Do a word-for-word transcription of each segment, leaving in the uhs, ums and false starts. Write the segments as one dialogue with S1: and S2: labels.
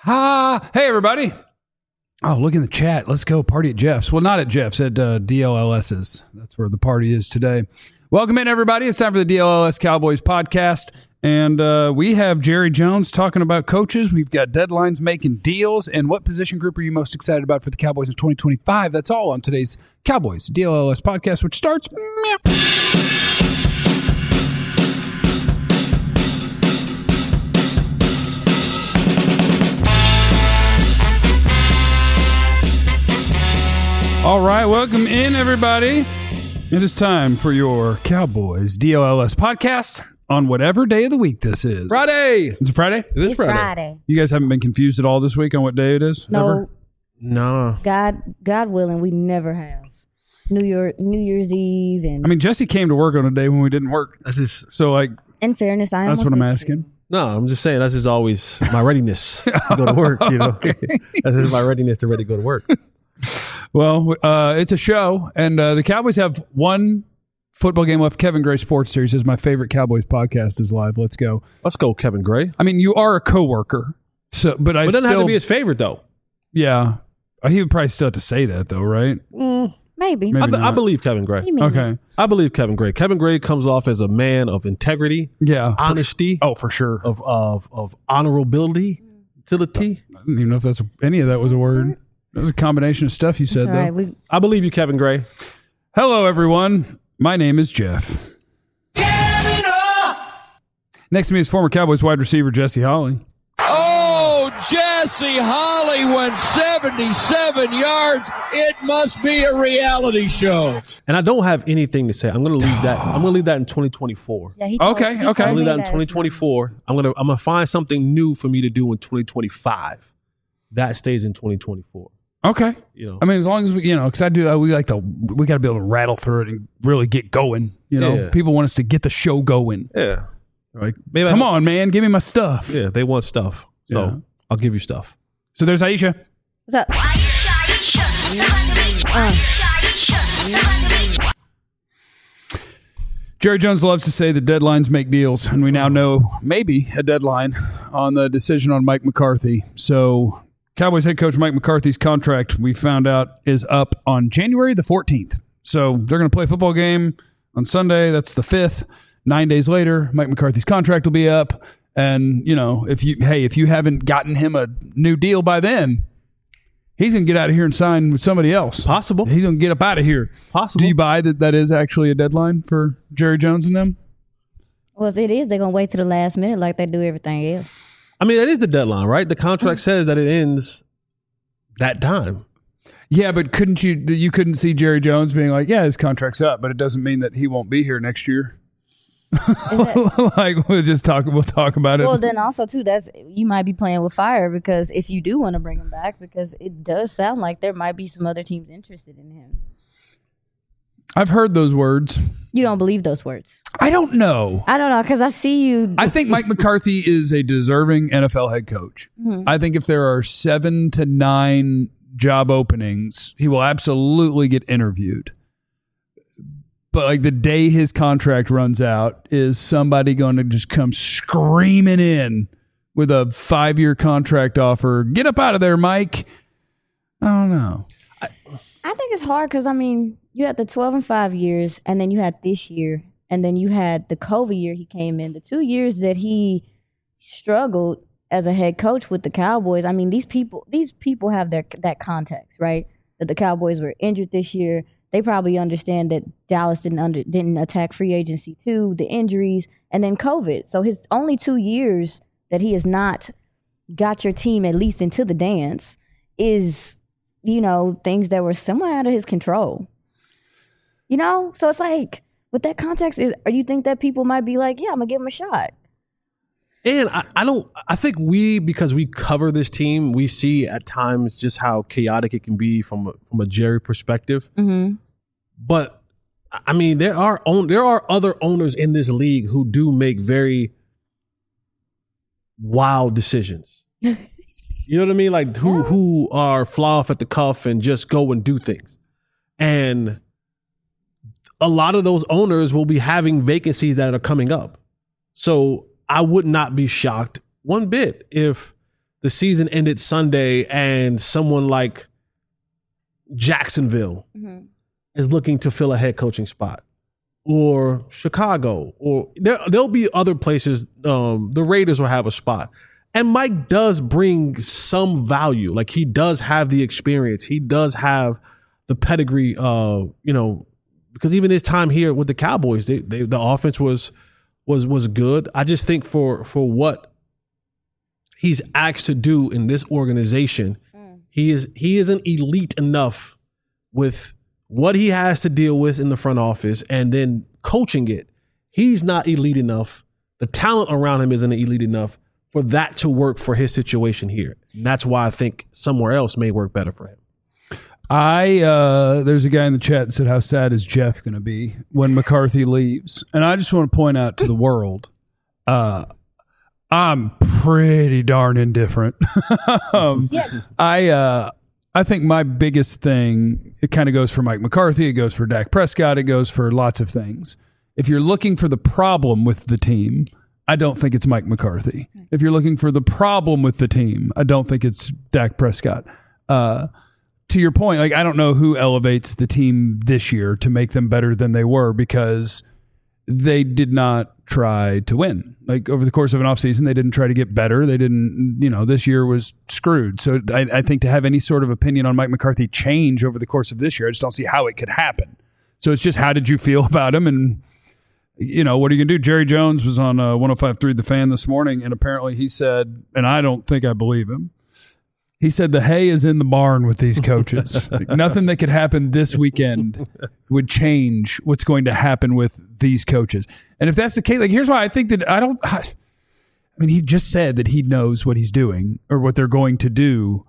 S1: Ha! Hey, everybody. Oh, look in the chat. Let's go party at Jeff's. Well, not at Jeff's, at uh, DLLS's. That's where the party is today. Welcome in, everybody. It's time for the D L L S Cowboys podcast. And uh, we have Jerry Jones talking about coaches. We've got deadlines making deals. And what position group are you most excited about for the Cowboys in twenty twenty-five? That's all on today's Cowboys D L L S podcast, which starts... All right, welcome in, everybody. It is time for your Cowboys D L L S podcast on whatever day of the week this is.
S2: Friday.
S1: Is it Friday?
S2: It is
S3: It's
S2: Friday.
S3: Friday.
S1: You guys haven't been confused at all this week on what day it is?
S3: No,
S1: Ever?
S2: No.
S3: God, God willing, we never have New Year, New Year's Eve, and
S1: I mean, Jesse came to work on a day when we didn't work.
S2: That's just
S1: So, like,
S3: in fairness, I
S1: that's
S3: almost
S1: what I'm
S3: did
S1: asking.
S3: too.
S2: no. I'm just saying that's just always my readiness to go to work. You know, that's just my readiness to ready to go to work.
S1: Well, uh, it's a show, and uh, the Cowboys have one football game left. Kevin Gray Sports Series is my favorite Cowboys podcast is live. Let's go.
S2: Let's go, Kevin Gray.
S1: I mean, you are a coworker, so but I
S2: But it doesn't
S1: still,
S2: have to be his favorite though.
S1: yeah. He would probably still have to say that, though, right?
S2: Mm,
S3: Maybe.
S1: Maybe
S2: I, be- I
S1: not.
S2: believe Kevin Gray.
S3: You mean
S1: Okay.
S2: I believe Kevin Gray. Kevin Gray comes off as a man of integrity,
S1: Yeah. for-
S2: honesty,
S1: oh, for sure.
S2: of of of honorability, utility.
S1: I don't even know if that's any of that was a word. That was a combination of stuff you
S3: It's
S1: said,
S3: all
S1: though.
S3: right. We,
S2: I believe you, Kevin Gray.
S1: Hello, everyone. My name is Jeff. Next to me is former Cowboys wide receiver Jesse Holley.
S4: Oh, Jesse Holley went seventy-seven yards. It must be a reality show.
S2: And I don't have anything to say. I'm going to leave that. I'm going to leave that in twenty twenty-four.
S3: yeah, he told,
S1: Okay,
S3: he
S1: okay.
S3: told
S2: I'll
S3: me
S2: leave that in
S3: last
S2: twenty
S3: night.
S2: twenty-four. I'm gonna I'm gonna find something new for me to do in twenty twenty-five. That stays in twenty twenty-four.
S1: Okay.
S2: You know,
S1: I mean, as long as we, you know, because I do, uh, we like to, we got to be able to rattle through it and really get going. You know,
S2: Yeah.
S1: people want us to get the show going.
S2: yeah,
S1: Like,
S2: maybe
S1: come
S2: I,
S1: on, man, give me my stuff.
S2: Yeah, they want stuff, so
S1: Yeah.
S2: I'll give you stuff.
S1: So there's Aisha.
S3: What's up?
S1: Jerry Jones loves to say that deadlines make deals, and we now know maybe a deadline on the decision on Mike McCarthy. So Cowboys head coach Mike McCarthy's contract, we found out, is up on January the fourteenth. So they're going to play a football game on Sunday. That's the fifth. Nine days later, Mike McCarthy's contract will be up. And, you know, if you, hey, if you haven't gotten him a new deal by then, he's going to get out of here and sign with somebody else.
S2: Possible,
S1: He's going to get up out of here.
S2: possible.
S1: Do you buy that that is actually a deadline for Jerry Jones and them?
S3: Well, if it is, they're gonna wait to the last minute like they do everything else.
S2: I mean, that is the deadline, right? The contract says that it ends that time.
S1: Yeah, but couldn't you you couldn't see Jerry Jones being like, yeah, his contract's up, but it doesn't mean that he won't be here next year. Like we'll just talk we'll talk about it.
S3: Well, then also too, that's you might be playing with fire because if you do want to bring him back, because it does sound like there might be some other teams interested in him.
S1: I've heard those words.
S3: You don't believe those words?
S1: I don't know.
S3: I don't know because I see you.
S1: I think Mike McCarthy is a deserving N F L head coach.
S3: Mhm.
S1: I think if there are seven to nine job openings, he will absolutely get interviewed. But like the day his contract runs out, is somebody going to just come screaming in with a five-year contract offer? Get up out of there, Mike. I don't know.
S3: I think it's hard because I mean, you had the twelve and five years, and then you had this year, and then you had the COVID year he came in. The two years that he struggled as a head coach with the Cowboys. I mean, these people, these people have their that context, right? That the Cowboys were injured this year. They probably understand that Dallas didn't under didn't attack free agency too, the injuries, and then COVID. So his only two years that he has not got your team at least into the dance is, you know, things that were somewhat out of his control. You know? So it's like, with that context, is or do you think that people might be like, yeah, I'm gonna give him a shot?
S2: And I, I don't. I think we, because we cover this team, we see at times just how chaotic it can be from a, from a Jerry perspective.
S3: Mm-hmm.
S2: But I mean, there are own, there are other owners in this league who do make very wild decisions. You know what I mean? Like who
S3: Yeah.
S2: who are fly off at the cuff and just go and do things. And a lot of those owners will be having vacancies that are coming up. So I would not be shocked one bit if the season ended Sunday and someone like Jacksonville mm-hmm. is looking to fill a head coaching spot, or Chicago, or there, there'll be other places. Um, the Raiders will have a spot. And Mike does bring some value. Like, he does have the experience. He does have the pedigree, uh, you know, because even his time here with the Cowboys, they, they, the offense was was was good. I just think for for what he's asked to do in this organization, mm. he is he isn't elite enough with what he has to deal with in the front office and then coaching it. He's not elite enough. The talent around him isn't elite enough for that to work for his situation here. And that's why I think somewhere else may work better for him.
S1: I uh, there's a guy in the chat that said, how sad is Jeff going to be when McCarthy leaves? And I just want to point out to the world, uh, I'm pretty darn indifferent. um, yeah. I uh, I think my biggest thing, it kind of goes for Mike McCarthy, it goes for Dak Prescott, it goes for lots of things. If you're looking for the problem with the team, I don't think it's Mike McCarthy. If you're looking for the problem with the team, I don't think it's Dak Prescott. Uh, to your point, like, I don't know who elevates the team this year to make them better than they were, because they did not try to win. Like, over the course of an offseason, they didn't try to get better. They didn't, you know, this year was screwed. So I, I think to have any sort of opinion on Mike McCarthy change over the course of this year, I just don't see how it could happen. So it's just, how did you feel about him? And, you know, what are you going to do? Jerry Jones was on uh, one oh five point three The Fan this morning, and apparently he said, and I don't think I believe him, he said the hay is in the barn with these coaches. Like, nothing that could happen this weekend would change what's going to happen with these coaches. And if that's the case, like, here's why I think that I don't, I mean, he just said that he knows what he's doing or what they're going to do.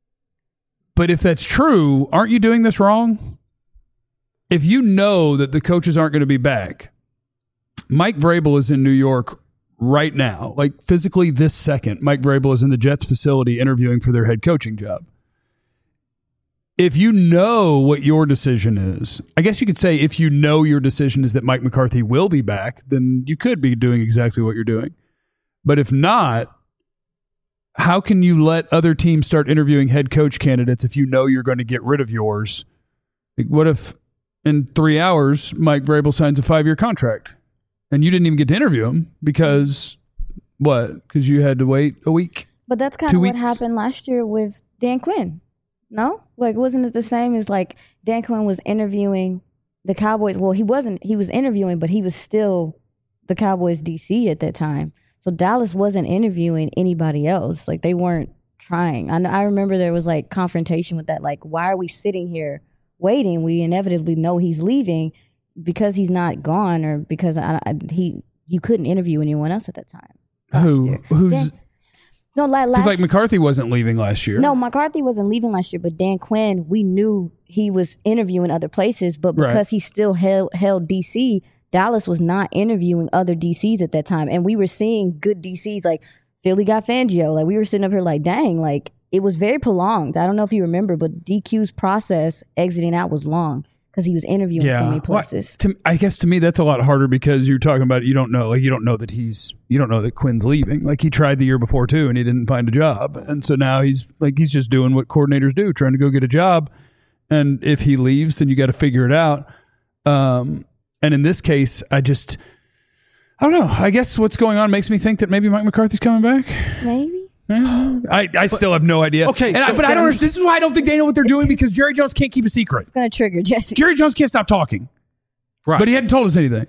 S1: But if that's true, aren't you doing this wrong? If you know that the coaches aren't going to be back, Mike Vrabel is in New York right now, like physically this second. Mike Vrabel is in the Jets facility interviewing for their head coaching job. If you know what your decision is, I guess you could say if you know your decision is that Mike McCarthy will be back, then you could be doing exactly what you're doing. But if not, how can you let other teams start interviewing head coach candidates if you know you're going to get rid of yours? Like, what if in three hours Mike Vrabel signs a five-year contract? And you didn't even get to interview him because, what? Because you had to wait a week?
S3: But that's kind of what happened last year with Dan Quinn. No? Like, wasn't it the same as, like, Dan Quinn was interviewing the Cowboys? Well, he wasn't. He was interviewing, but he was still the Cowboys D C at that time. So Dallas wasn't interviewing anybody else. Like, they weren't trying. I, I remember there was, like, confrontation with that. Like, why are we sitting here waiting? We inevitably know he's leaving. Because he's not gone, or because I, I, he you couldn't interview anyone else at that time.
S1: Who year. who's
S3: Dan, no like last
S1: like McCarthy wasn't leaving last year.
S3: No, McCarthy wasn't leaving last year, but Dan Quinn, we knew he was interviewing other places, but because right. he still held held D C, Dallas was not interviewing other D Cs at that time, and we were seeing good D Cs like Philly got Fangio. Like, we were sitting up here like, dang, like, it was very prolonged. I don't know if you remember, but D Q's process exiting out was long. Because he was interviewing yeah. so many places.
S1: Well, to, I guess to me that's a lot harder, because you're talking about, you don't know, like, you don't know that he's, you don't know that Quinn's leaving. Like, he tried the year before too, and he didn't find a job, and so now he's like, he's just doing what coordinators do, trying to go get a job. And if he leaves, then you got to figure it out. Um, and in this case, I just, I don't know. I guess what's going on makes me think that maybe Mike McCarthy's coming back.
S3: Maybe.
S1: I, I still have no idea.
S2: Okay,
S1: so I, but I don't. This is why I don't think they know what they're doing, because Jerry Jones can't keep a secret.
S3: It's going to trigger Jesse.
S1: Jerry Jones can't stop talking,
S2: right?
S1: But he hadn't told us anything.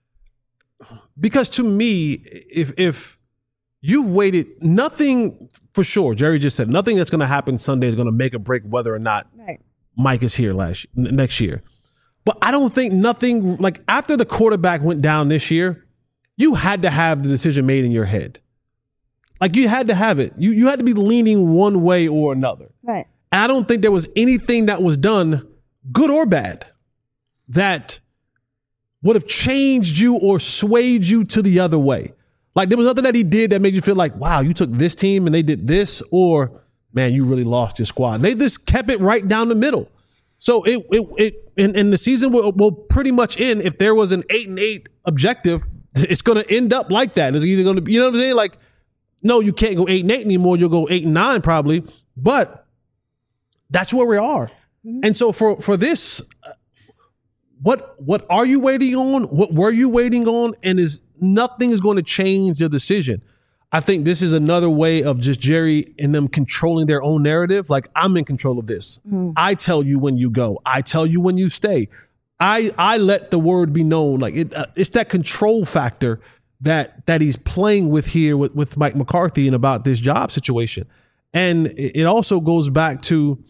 S2: Because to me, if if you've waited, nothing for sure. Jerry just said nothing that's going to happen Sunday is going to make or break whether or not right. Mike is here last next year. But I don't think nothing, like, after the quarterback went down this year, you had to have the decision made in your head. Like, you had to have it. You you had to be leaning one way or another.
S3: Right.
S2: And I don't think there was anything that was done, good or bad, that would have changed you or swayed you to the other way. Like, there was nothing that he did that made you feel like, wow, you took this team and they did this, or, man, you really lost your squad. They just kept it right down the middle. So it it it and, and the season will, will pretty much end. If there was an eight and eight objective, it's going to end up like that. It's either going to be, you know what I'm saying? Like, no, you can't go eight and eight anymore. You'll go eight and nine probably. But that's where we are. Mm-hmm. And so for for this, what what are you waiting on? What were you waiting on? And is nothing is going to change the decision. I think this is another way of just Jerry and them controlling their own narrative. Like, I'm in control of this. Mm. I tell you when you go. I tell you when you stay. I I let the word be known. Like it, uh, it's that control factor that that he's playing with here with, with Mike McCarthy and about this job situation. And it, it also goes back to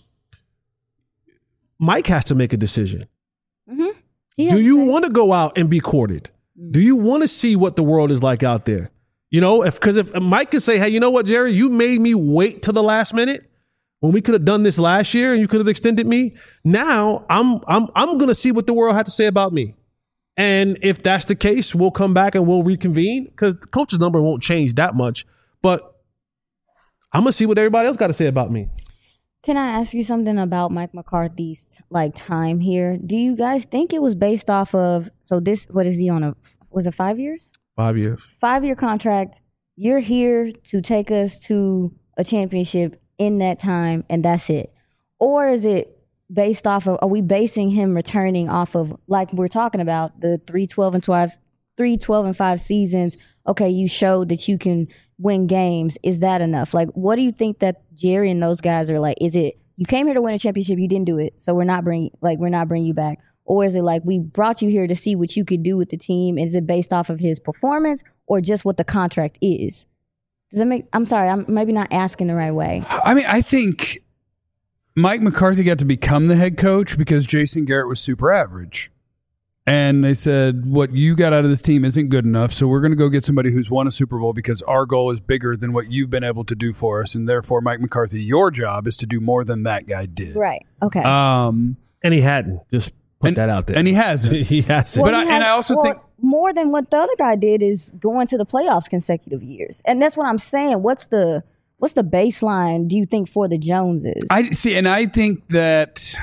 S2: Mike has to make a decision. Mm-hmm. Do you want to go out and be courted? Mm. Do you want to see what the world is like out there? You know, if because if Mike could say, hey, you know what, Jerry, you made me wait to the last minute when we could have done this last year and you could have extended me. Now I'm I'm I'm gonna see what the world had to say about me. And if that's the case, we'll come back and we'll reconvene because the coach's number won't change that much. But I'm gonna see what everybody else got to say about me.
S3: Can I ask you something about Mike McCarthy's like time here? Do you guys think it was based off of so this what is he on a was it five years?
S2: Five years.
S3: Five-year contract. You're here to take us to a championship in that time, and that's it. Or is it based off of, are we basing him returning off of, like we're talking about, the three twelve and twelve, three twelve and five seasons? Okay, you showed that you can win games. Is that enough? Like, what do you think that Jerry and those guys are like? Is it, you came here to win a championship, you didn't do it, so we're not bringing, like, we're not bringing you back? Or is it like we brought you here to see what you could do with the team? Is it based off of his performance or just what the contract is? Does that make? I'm sorry, I'm maybe not asking the right way.
S1: I mean, I think Mike McCarthy got to become the head coach because Jason Garrett was super average. And they said, what you got out of this team isn't good enough, so we're going to go get somebody who's won a Super Bowl because our goal is bigger than what you've been able to do for us. And therefore, Mike McCarthy, your job is to do more than that guy did.
S3: Right, okay.
S1: Um,
S2: and he hadn't. Just put
S1: and,
S2: that out there.
S1: And he hasn't.
S2: he hasn't.
S3: Well,
S1: but
S3: he
S1: I,
S3: has,
S1: and I also
S3: well,
S1: think
S3: more than what the other guy did is going to the playoffs consecutive years. And that's what I'm saying. What's the what's the baseline, do you think, for the Joneses?
S1: I see, and I think that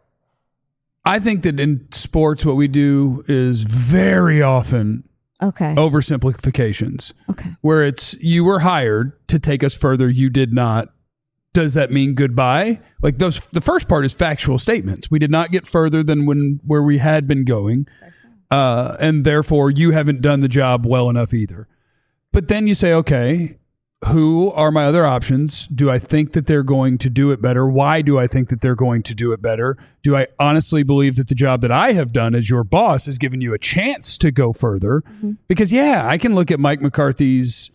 S1: I think that in sports what we do is very often
S3: okay.
S1: oversimplifications.
S3: Okay.
S1: Where it's you were hired to take us further, you did not. Does that mean goodbye? Like those, the first part is factual statements. We did not get further than when where we had been going, uh, and therefore you haven't done the job well enough either. But then you say, okay, who are my other options? Do I think that they're going to do it better? Why do I think that they're going to do it better? Do I honestly believe that the job that I have done as your boss has given you a chance to go further? Mm-hmm. Because yeah, I can look at Mike McCarthy's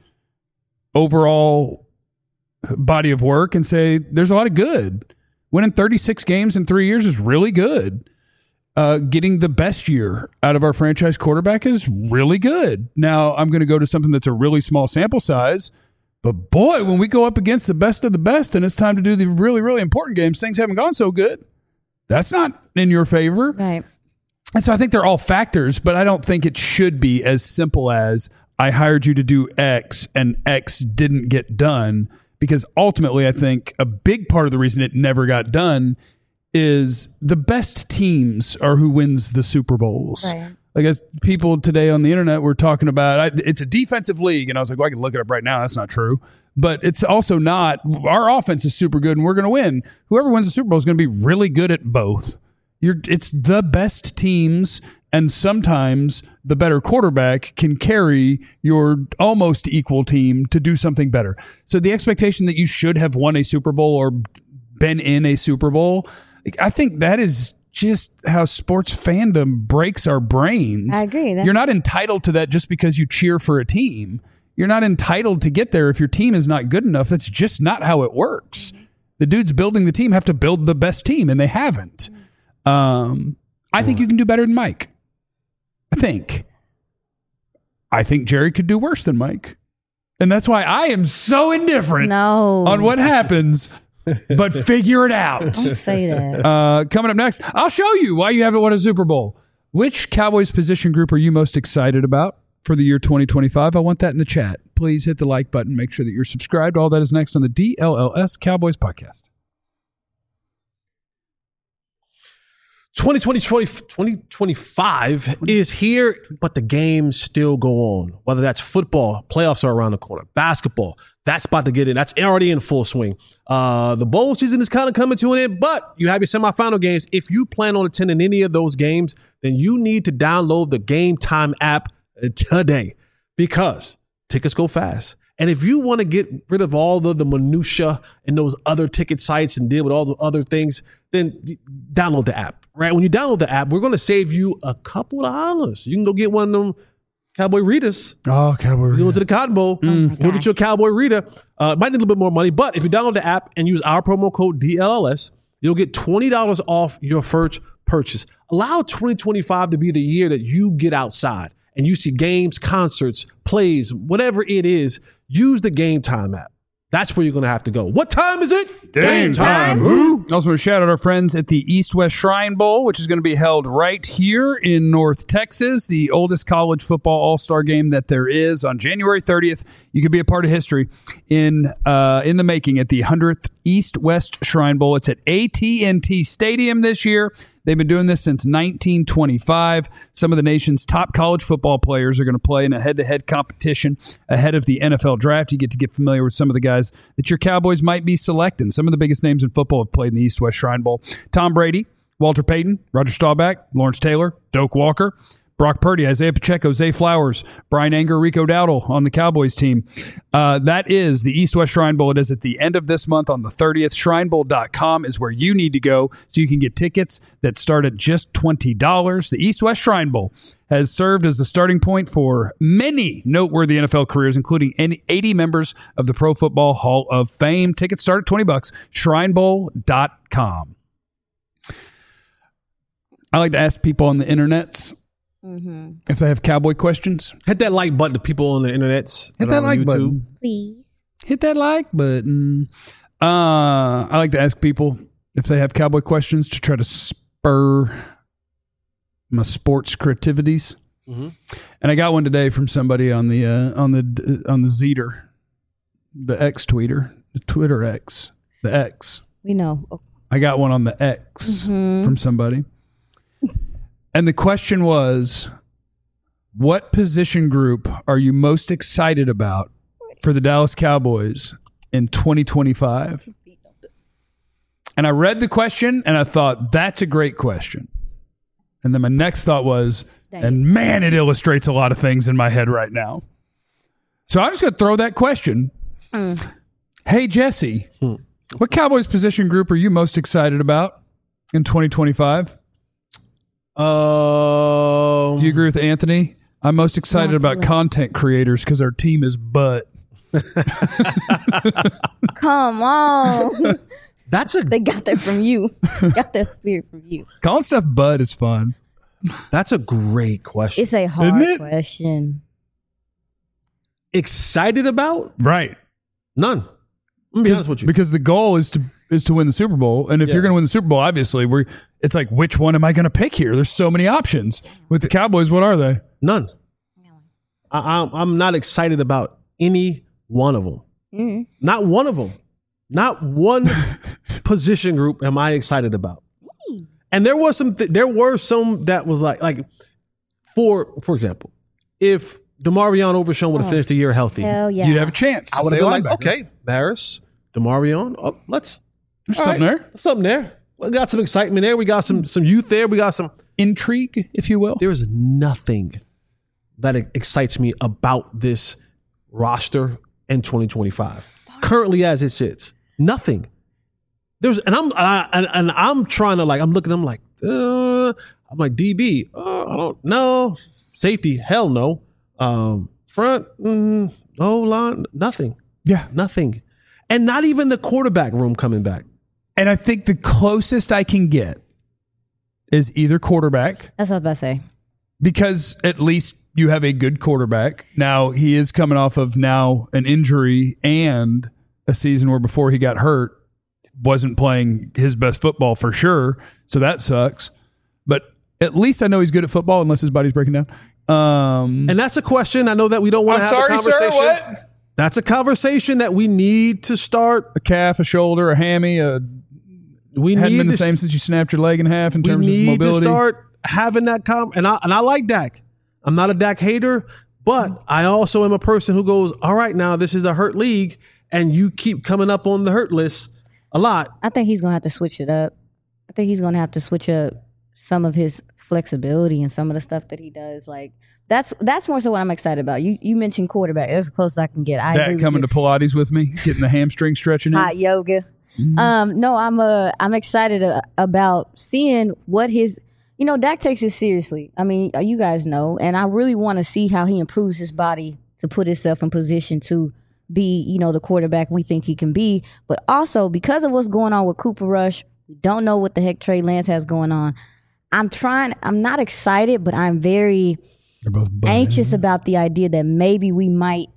S1: overall body of work and say there's a lot of good. Winning thirty-six games in three years is really good. Uh, getting the best year out of our franchise quarterback is really good. Now I'm going to go to something that's a really small sample size, but boy, when we go up against the best of the best and it's time to do the really, really important games, things haven't gone so good. That's not in your favor.
S3: Right.
S1: And so I think they're all factors, but I don't think it should be as simple as I hired you to do X and X didn't get done. Because ultimately, I think a big part of the reason it never got done is the best teams are who wins the Super Bowls.
S3: Right.
S1: Like as people today on the internet were talking about, I, it's a defensive league. And I was like, well, I can look it up right now. That's not true. But it's also not. Our offense is super good and we're going to win. Whoever wins the Super Bowl is going to be really good at both. You're, it's the best teams, and sometimes the better quarterback can carry your almost equal team to do something better. So the expectation that you should have won a Super Bowl or been in a Super Bowl, I think that is just how sports fandom breaks our brains.
S3: I agree. That's-
S1: You're not entitled to that just because you cheer for a team. You're not entitled to get there if your team is not good enough. That's just not how it works. The dudes building the team have to build the best team, and they haven't. Um, I think you can do better than Mike. I think. I think Jerry could do worse than Mike. And that's why I am so indifferent
S3: no.
S1: on what happens, but figure it out.
S3: Don't say that.
S1: Uh, coming up next, I'll show you why you haven't won a Super Bowl. Which Cowboys position group are you most excited about for the year twenty twenty-five? I want that in the chat. Please hit the like button. Make sure that you're subscribed. All that is next on the D L L S Cowboys podcast.
S2: twenty twenty, twenty twenty-five is here, but the games still go on. Whether that's football, playoffs are around the corner. Basketball, that's about to get in. That's already in full swing. Uh, the bowl season is kind of coming to an end, but you have your semifinal games. If you plan on attending any of those games, then you need to download the Game Time app today because tickets go fast. And if you want to get rid of all the, the minutia and those other ticket sites and deal with all the other things, then download the app, right? When you download the app, we're going to save you a couple of dollars. You can go get one of them Cowboy Ritas.
S1: Oh, Cowboy
S2: You go
S1: Rita.
S2: to the Cotton Bowl.
S3: Mm.
S2: You'll get your Cowboy Rita. Uh, might need a little bit more money, but if you download the app and use our promo code D L L S, you'll get twenty dollars off your first purchase. Allow twenty twenty-five to be the year that you get outside and you see games, concerts, plays, whatever it is. Use the Game Time app. That's where you're going to have to go. What time is it?
S1: Game time. Woo. Also, want to shout out our friends at the East West Shrine Bowl, which is going to be held right here in North Texas, the oldest college football all-star game that there is on January thirtieth. You could be a part of history in uh, in the making at the hundredth East West Shrine Bowl. It's at A T and T Stadium this year. They've been doing this since nineteen twenty-five. Some of the nation's top college football players are going to play in a head-to-head competition ahead of the N F L draft. You get to get familiar with some of the guys that your Cowboys might be selecting. Some of the biggest names in football have played in the East-West Shrine Bowl. Tom Brady, Walter Payton, Roger Staubach, Lawrence Taylor, Doak Walker, Brock Purdy, Isaiah Pacheco, Zay Flowers, Brian Anger, Rico Dowdle on the Cowboys team. Uh, that is the East-West Shrine Bowl. It is at the end of this month on the thirtieth. Shrine Bowl dot com is where you need to go so you can get tickets that start at just twenty dollars. The East-West Shrine Bowl has served as the starting point for many noteworthy N F L careers, including eighty members of the Pro Football Hall of Fame. Tickets start at twenty bucks. Shrine Bowl dot com. I like to ask people on the internets
S3: Mm-hmm.
S1: if they have Cowboy questions.
S2: Hit that like button to people on the internets.
S1: Hit that like button.
S3: Please.
S1: Hit that like button. Uh, I like to ask people if they have Cowboy questions to try to spur my sports creativities.
S2: Mm-hmm.
S1: And I got one today from somebody on the uh, on the on the Zeter, the X tweeter, the Twitter X, the X.
S3: We know. Oh.
S1: I got one on the X
S3: Mhm.
S1: from somebody. And the question was, what position group are you most excited about for the Dallas Cowboys in twenty twenty-five? And I read the question and I thought, that's a great question. And then my next thought was,
S3: Dang.
S1: and man, it illustrates a lot of things in my head right now. So I'm just going to throw that question.
S3: Mm.
S1: Hey, Jesse,
S2: Hmm.
S1: what Cowboys position group are you most excited about in twenty twenty-five?
S2: Um,
S1: Do you agree with Anthony? I'm most excited
S3: Lots of
S1: about
S3: lists.
S1: content creators because our team is butt.
S3: Come on.
S2: That's a
S3: They got that from you. Got that spirit from you.
S1: Calling stuff butt is fun.
S2: that's a great question.
S3: It's a hard
S1: it?
S3: question.
S2: Excited about?
S1: Right.
S2: None. I'm gonna be honest with you.
S1: Because the goal is to is to win the Super Bowl. And if
S2: Yeah.
S1: you're going to win the Super Bowl, obviously, we're it's like, which one am I going to pick here? There's so many options. With the Cowboys, what are they?
S2: None. I, I'm, I'm not excited about any one of them.
S3: Mm.
S2: Not one of them. Not one position group am I excited about. And there was some. Th- there were some that was like, like, for for example, if DeMarion Overshown would have
S3: Oh.
S2: finished the year healthy,
S3: Hell yeah.
S1: You'd have a chance. to
S2: I would have
S1: stay
S2: been like,
S1: linebacker.
S2: okay, Barris, DeMarion, oh, let's
S1: There's
S2: all
S1: something
S2: right,
S1: there.
S2: there's something there. We got some excitement there. We got some some youth there. We got some.
S1: Intrigue, if you will.
S2: There is nothing that excites me about this roster in twenty twenty-five. Currently, as it sits, nothing. There's and I'm I, and, and I'm trying to like I'm looking. I'm like, uh, I'm like D B. Uh, I don't know. Safety, hell no. Um, front, mm, O line, nothing,
S1: Yeah.
S2: nothing, and not even the quarterback room coming back.
S1: And I think the closest I can get is either quarterback,
S3: That's what I was about to say.
S1: because at least you have a good quarterback. Now, he is coming off of now an injury and a season where before he got hurt, wasn't playing his best football for sure. So that sucks. But at least I know he's good at football unless his body's breaking down. Um,
S2: And that's a question. I know that we don't want
S1: I'm
S2: to have
S1: sorry,
S2: a
S1: sir.
S2: conversation.
S1: What?
S2: That's a conversation that we need to start.
S1: A calf, a shoulder, a hammy, a
S2: we
S1: hadn't
S2: need
S1: been the
S2: to,
S1: same since you snapped your leg in half in
S2: we
S1: terms of
S2: need
S1: mobility.
S2: to start having that com and I and I like Dak. I'm not a Dak hater, but I also am a person who goes, all right, now this is a hurt league, and you keep coming up on the hurt list a lot.
S3: I think he's gonna have to switch it up. I think he's gonna have to switch up some of his flexibility and some of the stuff that he does. Like that's that's more so what I'm excited about. You you mentioned quarterback. That's as close as I can get. I agree
S1: Dak
S3: with
S1: coming
S3: you.
S1: to Pilates with me, getting the hamstring stretching in.
S3: Hot yoga.
S1: Mm-hmm.
S3: Um, no, I'm uh, I'm excited uh, about seeing what his. You know, Dak takes it seriously. I mean, you guys know, and I really want to see how he improves his body to put himself in position to be, you know, the quarterback we think he can be. But also because of what's going on with Cooper Rush, we don't know what the heck Trey Lance has going on. I'm trying. I'm not excited, but I'm very
S1: They're both buzzing.
S3: anxious about the idea that maybe we might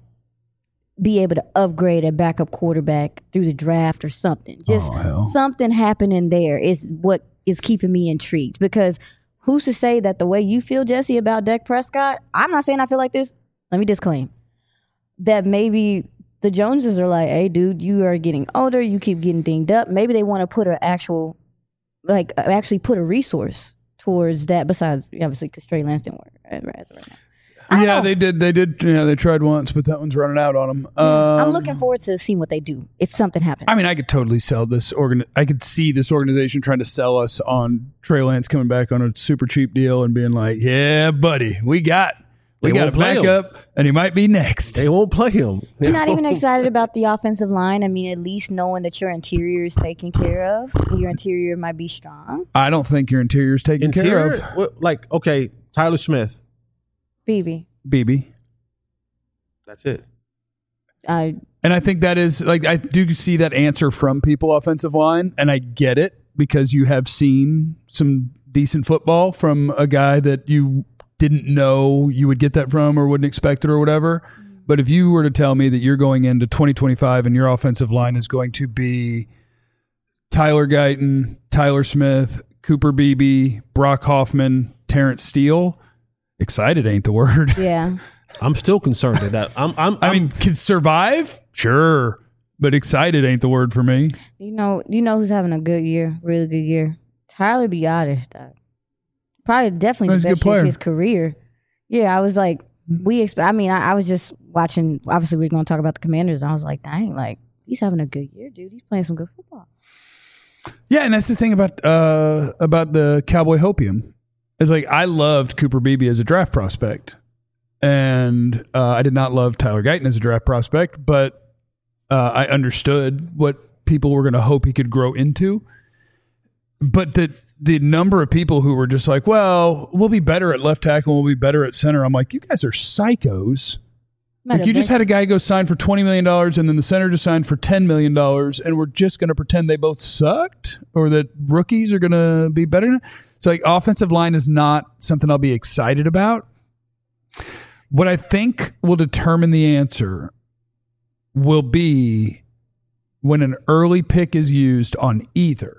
S3: be able to upgrade a backup quarterback through the draft or something. Just
S1: Oh, hell.
S3: something happening there is what is keeping me intrigued, because who's to say that the way you feel, Jesse, about Dak Prescott, I'm not saying I feel like this. Let me disclaim that maybe the Joneses are like, hey, dude, you are getting older. You keep getting dinged up. Maybe they want to put an actual, like, actually put a resource towards that besides, obviously, because Trey Lance didn't work as of right now. I don't
S1: Yeah,
S3: know.
S1: they did. They did. Yeah, they tried once, but that one's running out on them.
S3: I'm
S1: Um,
S3: looking forward to seeing what they do if something happens.
S1: I mean, I could totally sell this organ. I could see this organization trying to sell us on Trey Lance coming back on a super cheap deal and being like, "Yeah, buddy, we got we
S2: They
S1: got a
S2: won't play him.
S1: backup, and he might be next."
S2: They won't play him.
S3: You're not even excited about the offensive line. I mean, at least knowing that your interior is taken care of, your interior might be strong.
S1: I don't think your interior's taken care
S2: Interior,
S1: of.
S2: what, like okay, Tyler Smith.
S3: B B.
S1: B B.
S2: That's it.
S3: Uh,
S1: And I think that is like I do see that answer from people offensive line, and I get it because you have seen some decent football from a guy that you didn't know you would get that from or wouldn't expect it or whatever. But if you were to tell me that you're going into twenty twenty-five and your offensive line is going to be Tyler Guyton, Tyler Smith, Cooper Beebe, Brock Hoffman, Terrence Steele, excited ain't the word.
S3: yeah.
S2: I'm still concerned at that. I'm. I'm.
S1: I
S2: I'm-
S1: mean, can survive? Sure. But excited ain't the word for me.
S3: You know, you know who's having a good year, really good year? Tyler Biotis. dog. Probably definitely
S1: He's
S3: the
S1: a good
S3: best year
S1: player.
S3: of his career. Yeah, I was like, we expect. I mean, I, I was just watching. Obviously, we are going to talk about the Commanders. And I was like, dang, like he's having a good year, dude. He's playing some good football.
S1: Yeah, and that's the thing about uh, about the Cowboy Hopium. It's like I loved Cooper Beebe as a draft prospect, and uh, I did not love Tyler Guyton as a draft prospect, but uh, I understood what people were going to hope he could grow into. But the the number of people who were just like, well, we'll be better at left tackle, we'll be better at center. I'm like, you guys are psychos. Like you just had a guy go sign for twenty million dollars and then the center just signed for ten million dollars and we're just going to pretend they both sucked or that rookies are going to be better. So like offensive line is not something I'll be excited about. What I think will determine the answer will be when an early pick is used on either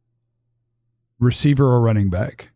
S1: receiver or running back.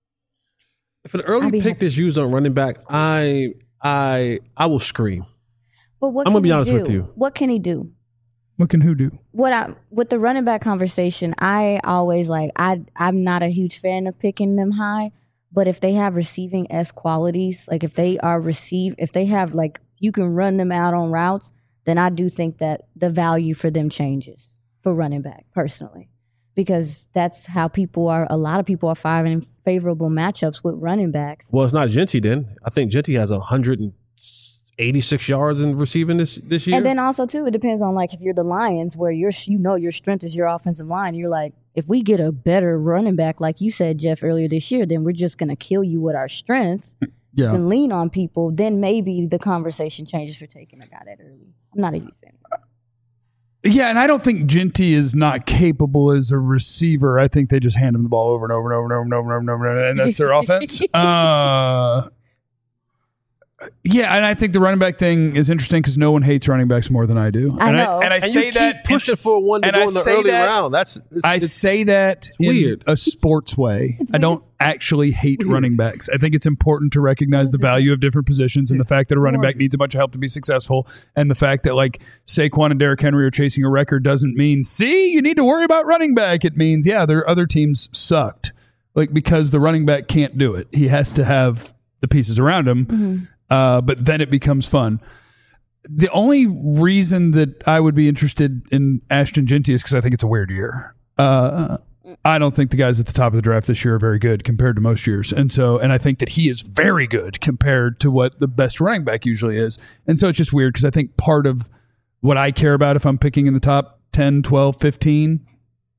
S2: if an early
S3: I'd be
S2: pick
S3: happy.
S2: is used on running back, I I I will scream.
S3: But what
S2: I'm
S3: can
S2: gonna be
S3: he
S2: honest
S3: do?
S2: with you.
S3: What can he do?
S1: What can who do?
S3: What I with the running back conversation, I always like I I'm not a huge fan of picking them high, but if they have receiving S qualities, like if they are receive if they have like you can run them out on routes, then I do think that the value for them changes for running back personally. Because that's how people are a lot of people are finding favorable matchups with running backs.
S2: Well, it's not Genty then. I think Genty has one hundred eighty-six yards in receiving this this year.
S3: And then also too, it depends on like if you're the Lions, where you're you know your strength is your offensive line. You're like, if we get a better running back, like you said, Jeff, earlier this year, then we're just gonna kill you with our strengths
S1: Yeah.
S3: and lean on people. Then maybe the conversation changes for taking a guy that early. I'm not a huge fan.
S1: Yeah, and I don't think Genty is not capable as a receiver. I think they just hand him the ball over and over and over and over and over and over, and, over, and that's their offense. Uh, Yeah, and I think the running back thing is interesting because no one hates running backs more than I do.
S3: I
S1: and
S3: know.
S1: I, and I
S2: And
S1: say
S2: you keep
S1: that
S2: pushing
S1: and,
S2: for one to
S1: and
S2: go
S1: I
S2: in the
S1: say
S2: early
S1: that-
S2: round. That's it's,
S1: I
S2: it's,
S1: say that in
S2: weird.
S1: a sports way. I don't actually hate running backs. I think it's important to recognize the value of different positions and the fact that a running back needs a bunch of help to be successful, and the fact that like Saquon and Derrick Henry are chasing a record doesn't mean, see, you need to worry about running back. It means, yeah, their other teams sucked. Like, because the running back can't do it. He has to have the pieces around him. Mm-hmm. Uh, but then it becomes fun. The only reason that I would be interested in Ashton Jeanty is because I think it's a weird year. Uh, I don't think the guys at the top of the draft this year are very good compared to most years. And so, and I think that he is very good compared to what the best running back usually is. And so it's just weird because I think part of what I care about if I'm picking in the top ten, twelve, fifteen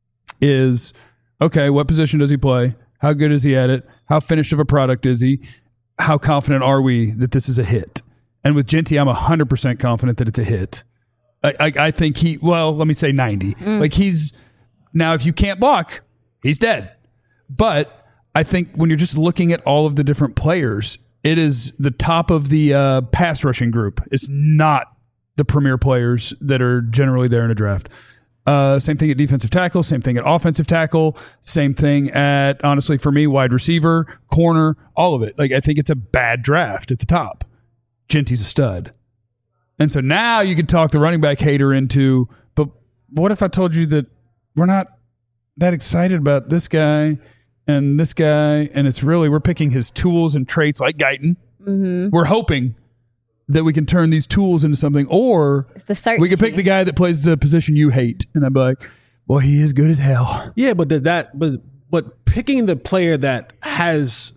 S1: is, okay, what position does he play? How good is he at it? How finished of a product is he? How confident are we that this is a hit? And with Jeanty, I'm one hundred percent confident that it's a hit. I, I, I think he, well, let me say ninety. Mm. Like he's, now if you can't block, he's dead. But I think when you're just looking at all of the different players, it is the top of the uh, pass rushing group. It's not the premier players that are generally there in a draft. Uh, same thing at defensive tackle, same thing at offensive tackle, same thing at, honestly, for me, wide receiver, corner, all of it. Like, I think it's a bad draft at the top. Jeanty's a stud. And so now you could talk the running back hater into, but what if I told you that we're not that excited about this guy and this guy, and it's really, we're picking his tools and traits like Guyton. Mm-hmm. We're hoping that we can turn these tools into something, or we could pick the guy that plays the position you hate, and I'd be like, well, he is good as hell.
S2: Yeah, but does that, but, but picking the player that has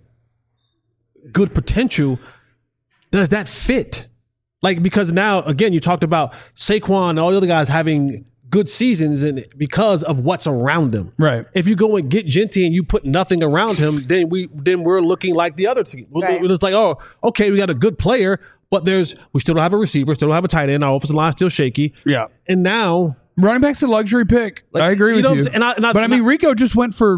S2: good potential, does that fit? Like, because now, again, you talked about Saquon and all the other guys having good seasons and because of what's around them.
S1: Right.
S2: If you go and get Jeanty and you put nothing around him, then we then we're looking like the other team. Right. It's like, oh, okay, we got a good player, but there's we still don't have a receiver, still don't have a tight end. Our offensive line's still shaky.
S1: Yeah.
S2: And now
S1: running back's a luxury pick.
S2: Like,
S1: I agree
S2: you
S1: with
S2: know
S1: you.
S2: and I, and I,
S1: but I mean,
S2: I,
S1: Rico just went for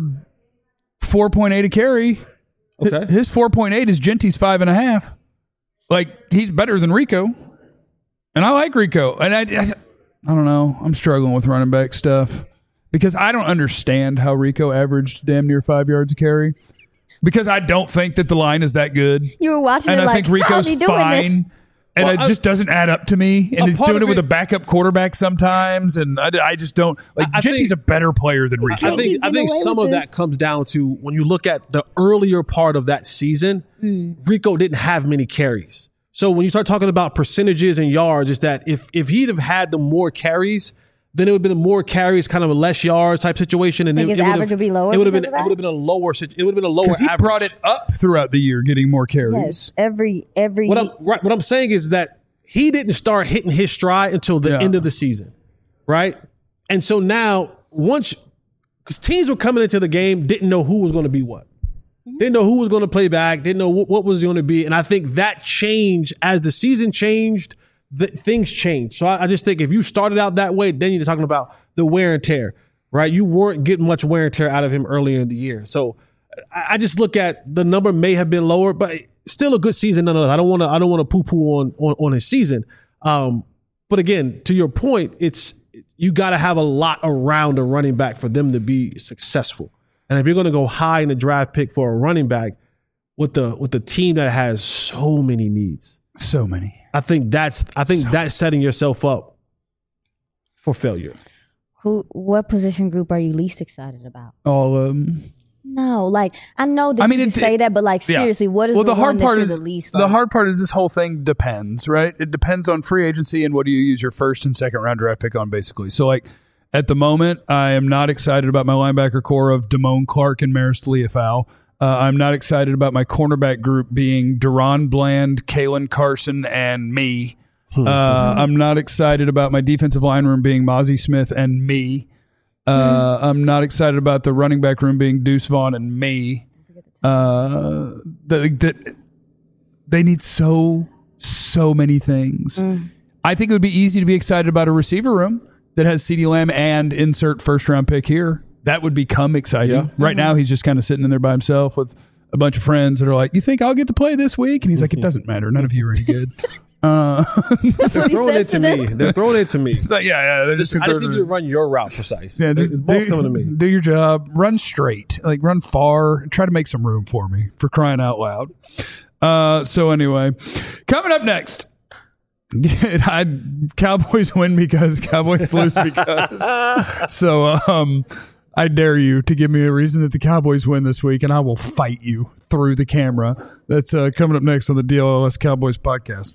S1: four point eight a carry.
S2: Okay.
S1: His four point eight is Jeanty's five and a half. Like, he's better than Rico. And I like Rico. And I, I, I don't know. I'm struggling with running back stuff because I don't understand how Rico averaged damn near five yards a carry. Because I don't think that the line is that good.
S3: You were watching
S1: and
S3: it
S1: I
S3: like,
S1: think Rico's
S3: how's he doing
S1: fine.
S3: this?
S1: And
S2: Well,
S1: it
S2: I-
S1: just doesn't add up to me. And
S2: A
S1: he's
S2: part
S1: doing
S2: of
S1: it with
S2: it-
S1: a backup quarterback sometimes. And I, I just don't. Like,
S2: I
S1: Jeanty's
S2: think-
S1: a better player than Rico.
S2: I think
S3: He's
S2: I think
S3: getting away
S2: some
S3: with
S2: of
S3: this.
S2: that comes down to when you look at the earlier part of that season, Rico didn't have many carries. So when you start talking about percentages and yards, is that if if he'd have had the more carries, then it would have been more carries, kind of a less yards type situation, and
S3: Think
S2: it,
S3: his
S2: it
S3: average
S2: have,
S3: would be lower
S2: It would have been
S3: because of
S2: it would have been a lower sit- it would have been a lower
S1: Because he
S2: average.
S1: brought it up throughout the year, getting more carries.
S3: Yes, every every
S2: What I'm right, what I'm saying is that he didn't start hitting his stride until the
S1: Yeah.
S2: end of the season, right? And so now once because teams were coming into the game didn't know who was going to be what. Didn't know who was going to play back. Didn't know what, what was going to be. And I think that changed as the season changed, the, things changed. So I, I just think if you started out that way, then you're talking about the wear and tear, right? You weren't getting much wear and tear out of him earlier in the year. So I, I just look at the number may have been lower, but still a good season nonetheless. I don't want to I don't want to poo poo on, on on his season. Um, but again, to your point, it's you got to have a lot around a running back for them to be successful. And if you're going to go high in the draft pick for a running back with the with the team that has so many needs,
S1: So many.
S2: I think that's I think that's setting yourself up for failure.
S3: who what position group are you least excited about?
S1: All of them.
S3: No, like I know that
S1: I mean,
S3: you
S1: it-
S3: can say that, but like
S1: Yeah.
S3: seriously, what is
S1: well,
S3: the,
S1: the hard
S3: one
S1: part
S3: that
S1: is
S3: you're the least?
S1: the
S3: like?
S1: hard part is this whole thing depends, right? It depends on free agency and what do you use your first and second round draft pick on, basically. So, like at the moment, I am not excited about my linebacker core of Damone Clark and Maris Leafau. Uh, I'm not excited about my cornerback group being Deron Bland, Kalen Carson, and me. Uh, I'm not excited about my defensive line room being Mozzie Smith and me. Uh, I'm not excited about the running back room being Deuce Vaughn and me. Uh, that that they need so so many things. I think it would be easy to be excited about a receiver room that has CeeDee Lamb and insert first round pick here. That would become exciting.
S2: Yeah.
S1: Right now, he's just kind of sitting in there by himself with a bunch of friends that are like, "You think I'll get to play this week?" And he's like, "It doesn't matter. None of you are any good." Uh,
S3: That's
S2: They're
S3: what he
S2: throwing
S3: says
S2: it to
S3: them.
S2: me. They're throwing it to me.
S1: so yeah, yeah. They're just,
S2: I just need you to run your route precise.
S1: Yeah, just
S2: the ball's
S1: do,
S2: coming to me.
S1: do your job. Run straight, like run far. Try to make some room for me, for crying out loud. Uh, so anyway, coming up next, I Cowboys win because Cowboys lose because. So um, I dare you to give me a reason that the Cowboys win this week, and I will fight you through the camera. That's uh, coming up next on the D L L S Cowboys podcast.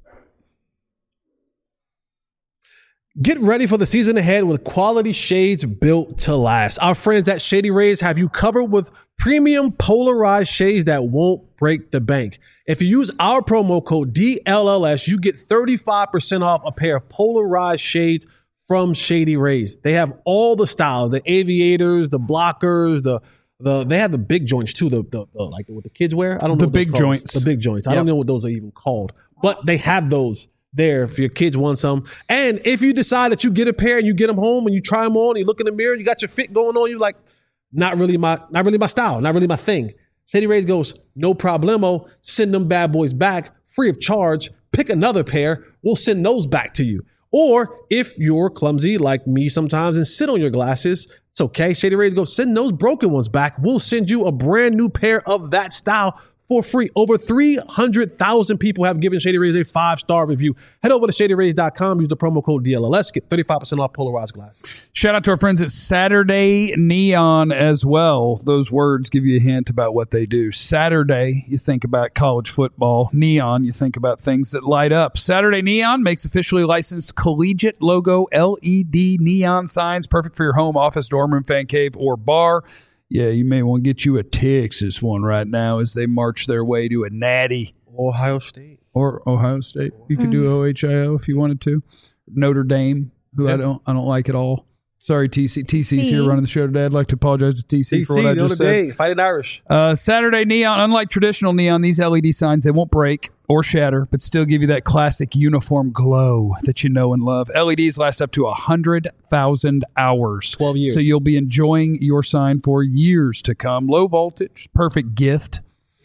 S2: Get ready for the season ahead with quality shades built to last. Our friends at Shady Rays have you covered with premium polarized shades that won't break the bank. If you use our promo code D L L S, you get thirty-five percent off a pair of polarized shades from Shady Rays. They have all the styles, the aviators, the blockers, the the they have the big joints too, the, the, the like what the kids wear. I don't
S1: The
S2: know what those
S1: big
S2: called.
S1: joints.
S2: The big joints. I
S1: Yep.
S2: don't know what those are even called, but they have those there if your kids want some. And if you decide that you get a pair and you get them home and you try them on, you look in the mirror, you got your fit going on, you're like, not really my, not really my style, not really my thing. Shady Rays goes, no problemo. Send them bad boys back free of charge. Pick another pair. We'll send those back to you. Or if you're clumsy like me sometimes and sit on your glasses, it's okay. Shady Rays go, send those broken ones back. We'll send you a brand new pair of that style for free. Over three hundred thousand people have given Shady Rays a five-star review. Head over to shady rays dot com. Use the promo code D L L S. Get thirty-five percent off polarized glasses.
S1: Shout out to our friends at Saturday Neon as well. Those words give you a hint about what they do. Saturday, you think about college football. Neon, you think about things that light up. Saturday Neon makes officially licensed collegiate logo L E D neon signs, perfect for your home, office, dorm room, fan cave, or bar. Yeah, you may want to get you a Texas one right now as they march their way to a natty.
S2: Ohio State.
S1: Or Ohio State. You could do O H I O if you wanted to. Notre Dame, who I don't I don't like at all. Sorry, T C. T C's here running the show today. I'd like to apologize to T C,
S2: T C,
S1: for what I
S2: Notre
S1: just said.
S2: Dame, Fighting Irish.
S1: Uh, Saturday Neon, unlike traditional neon, these L E D signs, they won't break or shatter, but still give you that classic uniform glow that you know and love. L E Ds last up to one hundred thousand hours.
S2: twelve years.
S1: So you'll be enjoying your sign for years to come. Low voltage, perfect gift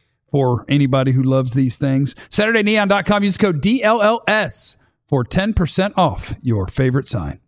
S1: for anybody who loves these things. Saturday Neon dot com, use code D L L S for ten percent off your favorite sign.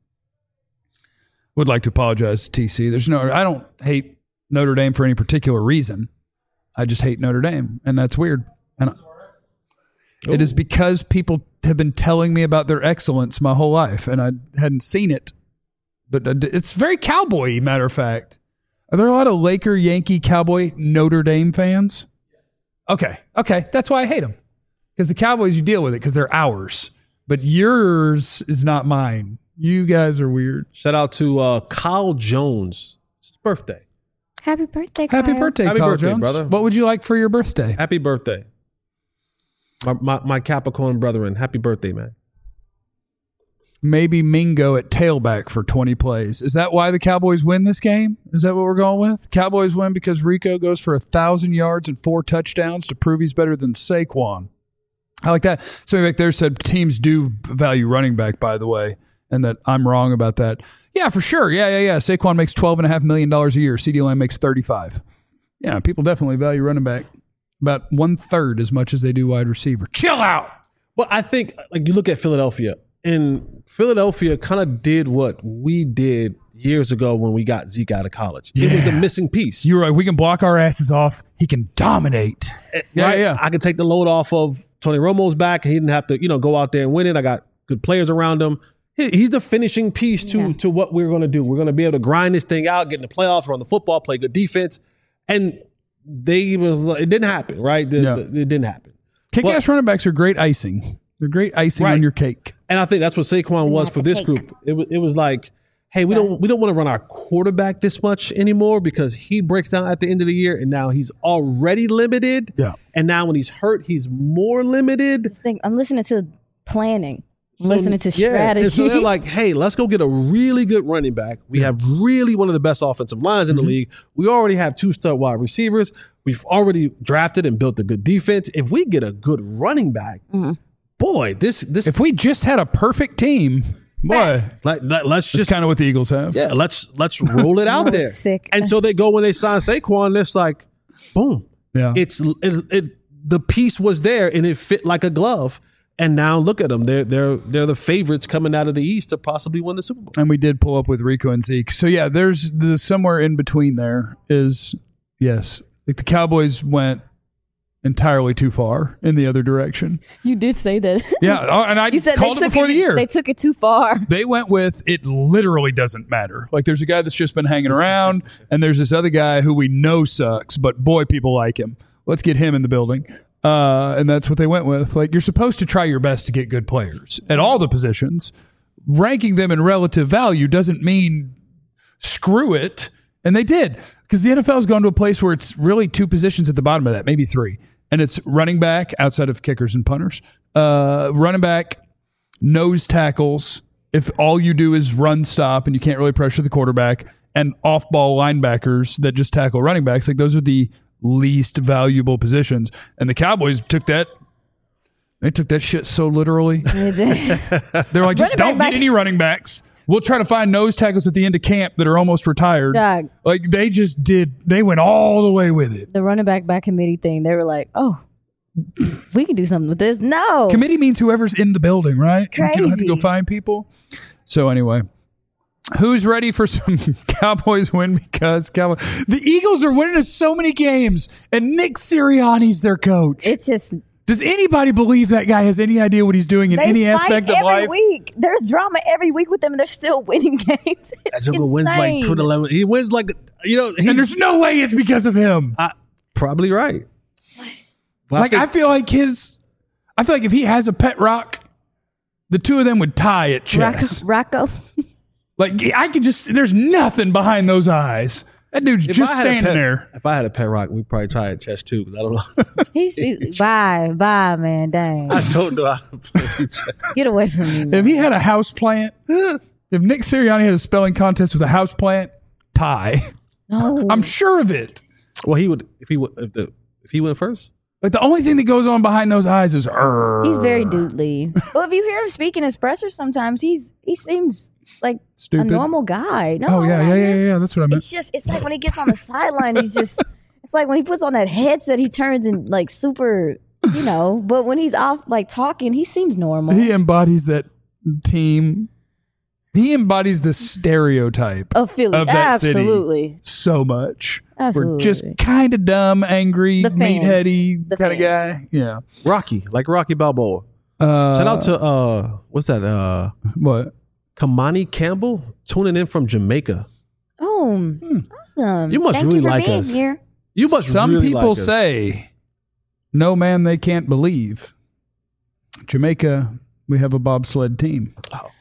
S1: Would like to apologize to T C. There's no, I don't hate Notre Dame for any particular reason. I just hate Notre Dame, and that's weird. And I, it is because people have been telling me about their excellence my whole life, and I hadn't seen it. But it's very cowboy-y, matter of fact. Are there a lot of Laker, Yankee, Cowboy, Notre Dame fans? Okay, okay, that's why I hate them. Because the Cowboys, you deal with it because they're ours, but yours is not mine. You guys are weird.
S2: Shout out to uh, Kyle Jones. It's his birthday.
S3: Happy birthday, Kyle.
S1: Happy birthday,
S2: Happy
S1: Kyle
S2: birthday,
S1: Jones.
S2: brother.
S1: What would you like for your birthday?
S2: Happy birthday. My, my, my Capricorn brethren. Happy birthday, man.
S1: Maybe Mingo at tailback for twenty plays. Is that why the Cowboys win this game? Is that what we're going with? Cowboys win because Rico goes for a thousand yards and four touchdowns to prove he's better than Saquon. I like that. Somebody back there said teams do value running back, by the way, and that I'm wrong about that. Yeah, for sure. Yeah, yeah, yeah. Saquon makes twelve point five million dollars a year. CeeDee Lamb makes thirty-five. Yeah, people definitely value running back about one-third as much as they do wide receiver. Chill out.
S2: But I think, like, you look at Philadelphia, and Philadelphia kind of did what we did years ago when we got Zeke out of college. It was the missing piece.
S1: You're right. We can block our asses off. He can dominate. Yeah,
S2: right?
S1: yeah.
S2: I can take the load off of Tony Romo's back. He didn't have to, you know, go out there and win it. I got good players around him. He, he's the finishing piece to,
S3: Yeah.
S2: to what we're going to do. We're going to be able to grind this thing out, get in the playoffs, run the football, play good defense. And they was it didn't happen, right? The,
S1: Yeah.
S2: the, it didn't happen.
S1: Kick-ass running backs are great icing. They're great icing
S2: Right.
S1: on your cake.
S2: And I think that's what Saquon was
S3: have
S2: for
S3: to
S2: this
S3: take-
S2: group. It was it was like, hey, we don't we don't want to run our quarterback this much anymore because he breaks down at the end of the year, and now he's already limited.
S1: Yeah.
S2: And now when he's hurt, he's more limited.
S3: Just think, I'm listening to planning. I'm
S2: So,
S3: listening to
S2: yeah,
S3: strategy.
S2: and so they're like, hey, let's go get a really good running back. We have really one of the best offensive lines in
S1: Mm-hmm.
S2: the league. We already have two star wide receivers. We've already drafted and built a good defense. If we get a good running back,
S3: Mm-hmm.
S2: boy, this this
S1: If we just had a perfect team, boy,
S2: let, let, let's
S1: that's
S2: just
S1: kind of what the Eagles have.
S2: yeah, let's let's roll it out
S3: Oh,
S2: there.
S3: sick.
S2: And so they go when they sign Saquon, it's like, boom,
S1: Yeah.
S2: It's it, it the piece was there and it fit like a glove. And now look at them. They're they're they're the favorites coming out of the East to possibly win the Super Bowl.
S1: And we did pull up with Rico and Zeke. So yeah, there's the somewhere in between there is yes. Like the Cowboys went entirely too far in the other direction.
S3: You did say that.
S1: Yeah, oh, and I
S3: You said
S1: called
S3: they
S1: it
S3: took
S1: before
S3: it,
S1: the year.
S3: They took it too far.
S1: They went with it literally doesn't matter. Like there's a guy that's just been hanging around, and there's this other guy who we know sucks, but boy, people like him. Let's get him in the building. Uh, and that's what they went with. Like you're supposed to try your best to get good players at all the positions. Ranking them in relative value doesn't mean screw it. And they did, because the N F L has gone to a place where it's really two positions at the bottom of that, maybe three. And it's running back outside of kickers and punters, uh, running back, nose tackles. If all you do is run stop and you can't really pressure the quarterback, and off ball linebackers that just tackle running backs, like those are the least valuable positions. And the Cowboys took that. They took that shit so literally. They're like, just
S3: Running
S1: don't
S3: back-
S1: get any running backs. We'll try to find nose tackles at the end of camp that are almost retired.
S3: Dog.
S1: Like they just did. They went all the way with it.
S3: The running back back committee thing, they were like, oh, we can do something with this. No.
S1: Committee means whoever's in the building, right? Like, you don't have to go
S3: Crazy.
S1: find people. So anyway, who's ready for some Cowboys win? Because Cowboys, the Eagles are winning us so many games, and Nick Sirianni's their coach.
S3: It's just
S1: Does anybody believe that guy has any idea what he's doing in
S3: they
S1: any
S3: fight
S1: aspect of
S3: every
S1: life?
S3: week. There's drama every week with them, and they're still winning games. It's
S2: That Joker wins like
S3: insane.
S2: twenty eleven. He wins like, you know, he,
S1: And there's no way it's because of him.
S2: I, probably right. Well,
S1: Like I
S2: think-
S1: feel like his, I feel like if he has a pet rock, the two of them would tie at chess.
S3: Rocco. Rocco.
S1: Like I could just, there's nothing behind those eyes. That dude's
S2: if
S1: just
S2: I had a
S1: standing
S2: pet-
S1: there.
S2: If I had a pet rock, we'd probably try at chess too. Because I don't know.
S3: He's he, bye, bye, man. Dang.
S2: I don't know how to play chess.
S3: Get away from me, man.
S1: If he had a house plant, if Nick Sirianni had a spelling contest with a house plant, tie.
S3: No.
S1: I'm sure of it.
S2: Well, he would if he would if the if he went first.
S1: Like the only thing that goes on behind those eyes is "Arr."
S3: He's very doodly. Well, if you hear him speaking his pressers sometimes, he's he seems like
S1: Stupid.
S3: a normal guy. No,
S1: Oh yeah, yeah, yeah, yeah. That's what I meant.
S3: It's just it's like when he gets on the sideline, he's just it's like when he puts on that headset, he turns in like super, you know. But when he's off like talking, he seems normal.
S1: He embodies that team. He embodies the stereotype
S3: of Philly,
S1: of that
S3: absolutely.
S1: city so much.
S3: Absolutely.
S1: We're just kind of dumb, angry,
S3: The fans.
S1: meatheady
S3: The
S1: kind of
S3: fans.
S1: guy. Yeah.
S2: Rocky, like Rocky Balboa.
S1: Uh,
S2: Shout out to uh, what's that? Uh,
S1: what?
S2: Kamani Campbell tuning in from Jamaica.
S3: Oh, awesome!
S2: You must
S3: Thank
S2: really
S3: you for
S2: like
S3: being
S2: us.
S3: here.
S2: You must.
S1: Some
S2: really
S1: people
S2: like us.
S1: say, "No man, they can't believe." Jamaica, we have a bobsled team.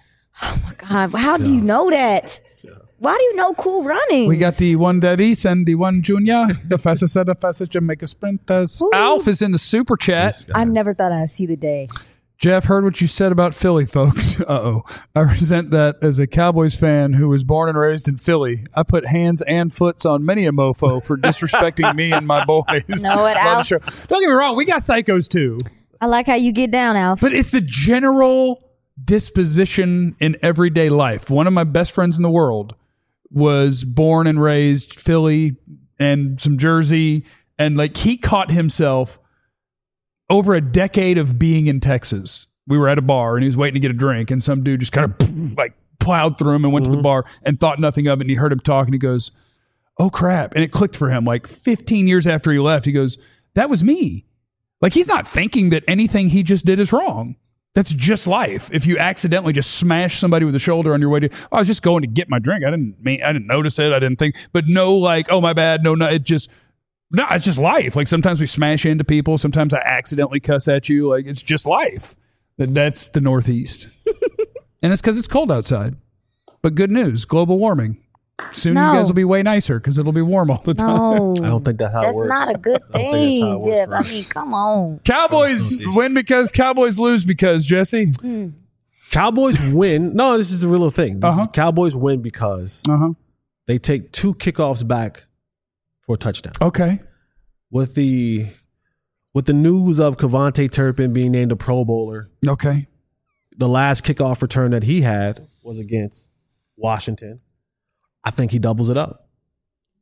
S3: God, how do you know that? Why do you know Cool Running?
S1: We got the one that is and the one junior, the fastest of the fastest Jamaica sprinters.
S3: Ooh.
S1: Alf is in the super chat.
S3: I never thought I'd see the day.
S1: Jeff, heard what you said about Philly, folks. Uh-oh. I resent that as a Cowboys fan who was born and raised in Philly. I put hands and foots on many a mofo for disrespecting me and my boys.
S3: Know it,
S1: on the
S3: Alf.
S1: show. Don't get me wrong, we got psychos too.
S3: I like how you get down, Alf.
S1: But it's the general disposition in everyday life. One of my best friends in the world was born and raised Philly and some Jersey. And like he caught himself over a decade of being in Texas. We were at a bar and he was waiting to get a drink. And some dude just kind of like plowed through him and went
S2: Mm-hmm.
S1: to the bar and thought nothing of it. And he heard him talk and he goes, oh crap. And it clicked for him like fifteen years after he left. He goes, that was me. Like he's not thinking that anything he just did is wrong. That's just life. If you accidentally just smash somebody with a shoulder on your way to, oh, I was just going to get my drink. I didn't mean, I didn't notice it. I didn't think, but no, like, oh my bad. No, no, it just, no, it's just life. Like sometimes we smash into people. Sometimes I accidentally cuss at you. Like it's just life. That That's the Northeast. And it's because it's cold outside. But good news, global warming. Soon
S3: No.
S1: you guys will be way nicer because it'll be warm all the time.
S3: No,
S2: I don't think that's how
S3: that's
S2: it works.
S3: not a good
S2: I don't think that's how it
S3: thing,
S2: works
S3: Jeff.
S2: for
S3: I
S2: us.
S3: mean, come on.
S1: Cowboys
S2: Northeast.
S1: win because Cowboys lose because, Jesse.
S2: Cowboys win. No, this is a real thing. This
S1: Uh-huh.
S2: is Cowboys win because
S1: Uh-huh.
S2: they take two kickoffs back for a touchdown.
S1: Okay.
S2: With the with the news of Kevontae Turpin being named a Pro Bowler,
S1: Okay.
S2: the last kickoff return that he had was against Washington. I think he doubles it up.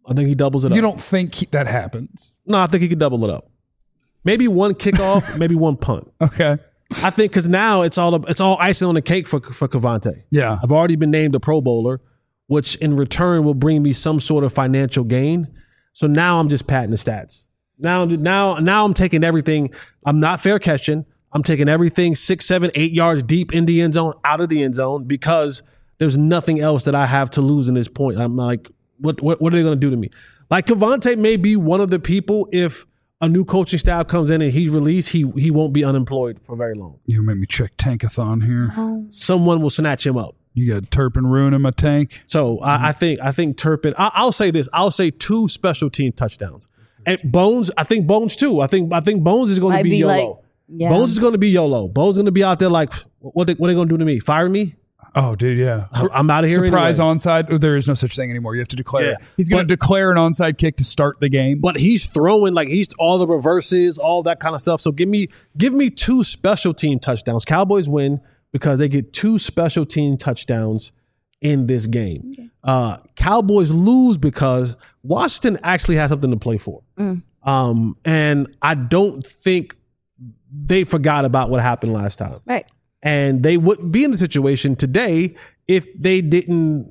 S2: I think he doubles it up.
S1: You don't think he, that happens?
S2: No, I think he could double it up. Maybe one kickoff, maybe one punt.
S1: Okay.
S2: I think because now it's all it's all icing on the cake for for Cavante.
S1: Yeah.
S2: I've already been named a Pro Bowler, which in return will bring me some sort of financial gain. So now I'm just patting the stats. Now, now, now I'm taking everything. I'm not fair catching. I'm taking everything six, seven, eight yards deep in the end zone, out of the end zone, because there's nothing else that I have to lose in this point. I'm like, what, what, what are they going to do to me? Like Cavante may be one of the people, if a new coaching staff comes in and he's released, he he won't be unemployed for very long.
S1: You made me check Tankathon here.
S3: Oh.
S2: Someone will snatch him up.
S1: You got Turpin ruining my tank.
S2: So mm-hmm. I, I think I think Turpin. I, I'll say this. I'll say two special team touchdowns. And Bones, I think Bones too. I think I think Bones is going
S3: Might
S2: to be,
S3: be
S2: YOLO.
S3: like, yeah.
S2: Bones is going to be YOLO. Bones is going to be out there like, what they, what are they going to do to me? Fire me?
S1: Oh, dude, yeah.
S2: I'm, I'm out of here.
S1: Surprise
S2: anyway.
S1: onside. Oh, there is no such thing anymore. You have to declare.
S2: Yeah.
S1: He's going to
S2: But-
S1: declare an onside kick to start the game.
S2: But he's throwing like he's all the reverses, all that kind of stuff. So give me give me two special team touchdowns. Cowboys win because they get two special team touchdowns in this game. Okay. Uh, Cowboys lose because Washington actually has something to play for.
S3: Mm.
S2: Um, and I don't think they forgot about what happened last time.
S3: Right.
S2: And they wouldn't be in the situation today if they didn't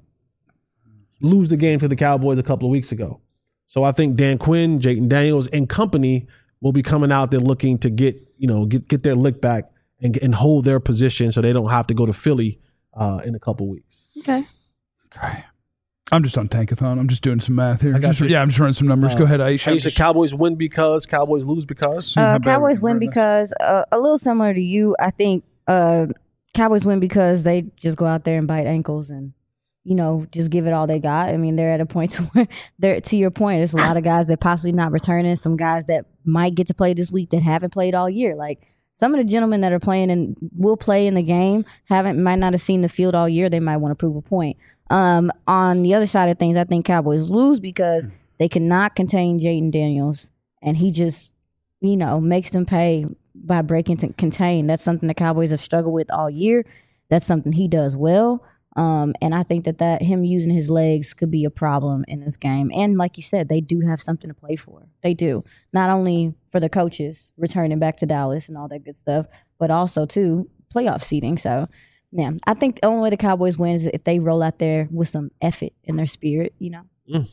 S2: lose the game to the Cowboys a couple of weeks ago. So I think Dan Quinn, Jayden Daniels, and company will be coming out there looking to get, you know, get get their lick back and and hold their position so they don't have to go to Philly uh, in a couple of weeks.
S3: Okay.
S1: Okay. I'm just on Tankathon. I'm just doing some math here.
S2: I got
S1: Just-
S2: you.
S1: yeah, I'm just running some numbers.
S2: Uh,
S1: Go ahead, Aisha.
S2: You said Cowboys win because, Cowboys lose because.
S1: See how
S3: Uh,
S1: bad
S3: Cowboys
S1: we
S3: win
S1: remember this.
S3: because uh, a little similar to you. I think uh, Cowboys win because they just go out there and bite ankles and, you know, just give it all they got. I mean, they're at a point to where they're to your point. There's a lot of guys that possibly not returning. Some guys that might get to play this week that haven't played all year. Like some of the gentlemen that are playing and will play in the game haven't might not have seen the field all year. They might want to prove a point. Um, on the other side of things, I think Cowboys lose because they cannot contain Jayden Daniels, and he just, you know, makes them pay by breaking to contain. That's something the Cowboys have struggled with all year. That's something he does well. Um, and I think that, that him using his legs could be a problem in this game. And like you said, they do have something to play for. They do. Not only for the coaches returning back to Dallas and all that good stuff, but also, too, playoff seeding. So, yeah, I think the only way the Cowboys win is if they roll out there with some effort in their spirit, you know.
S2: Mm.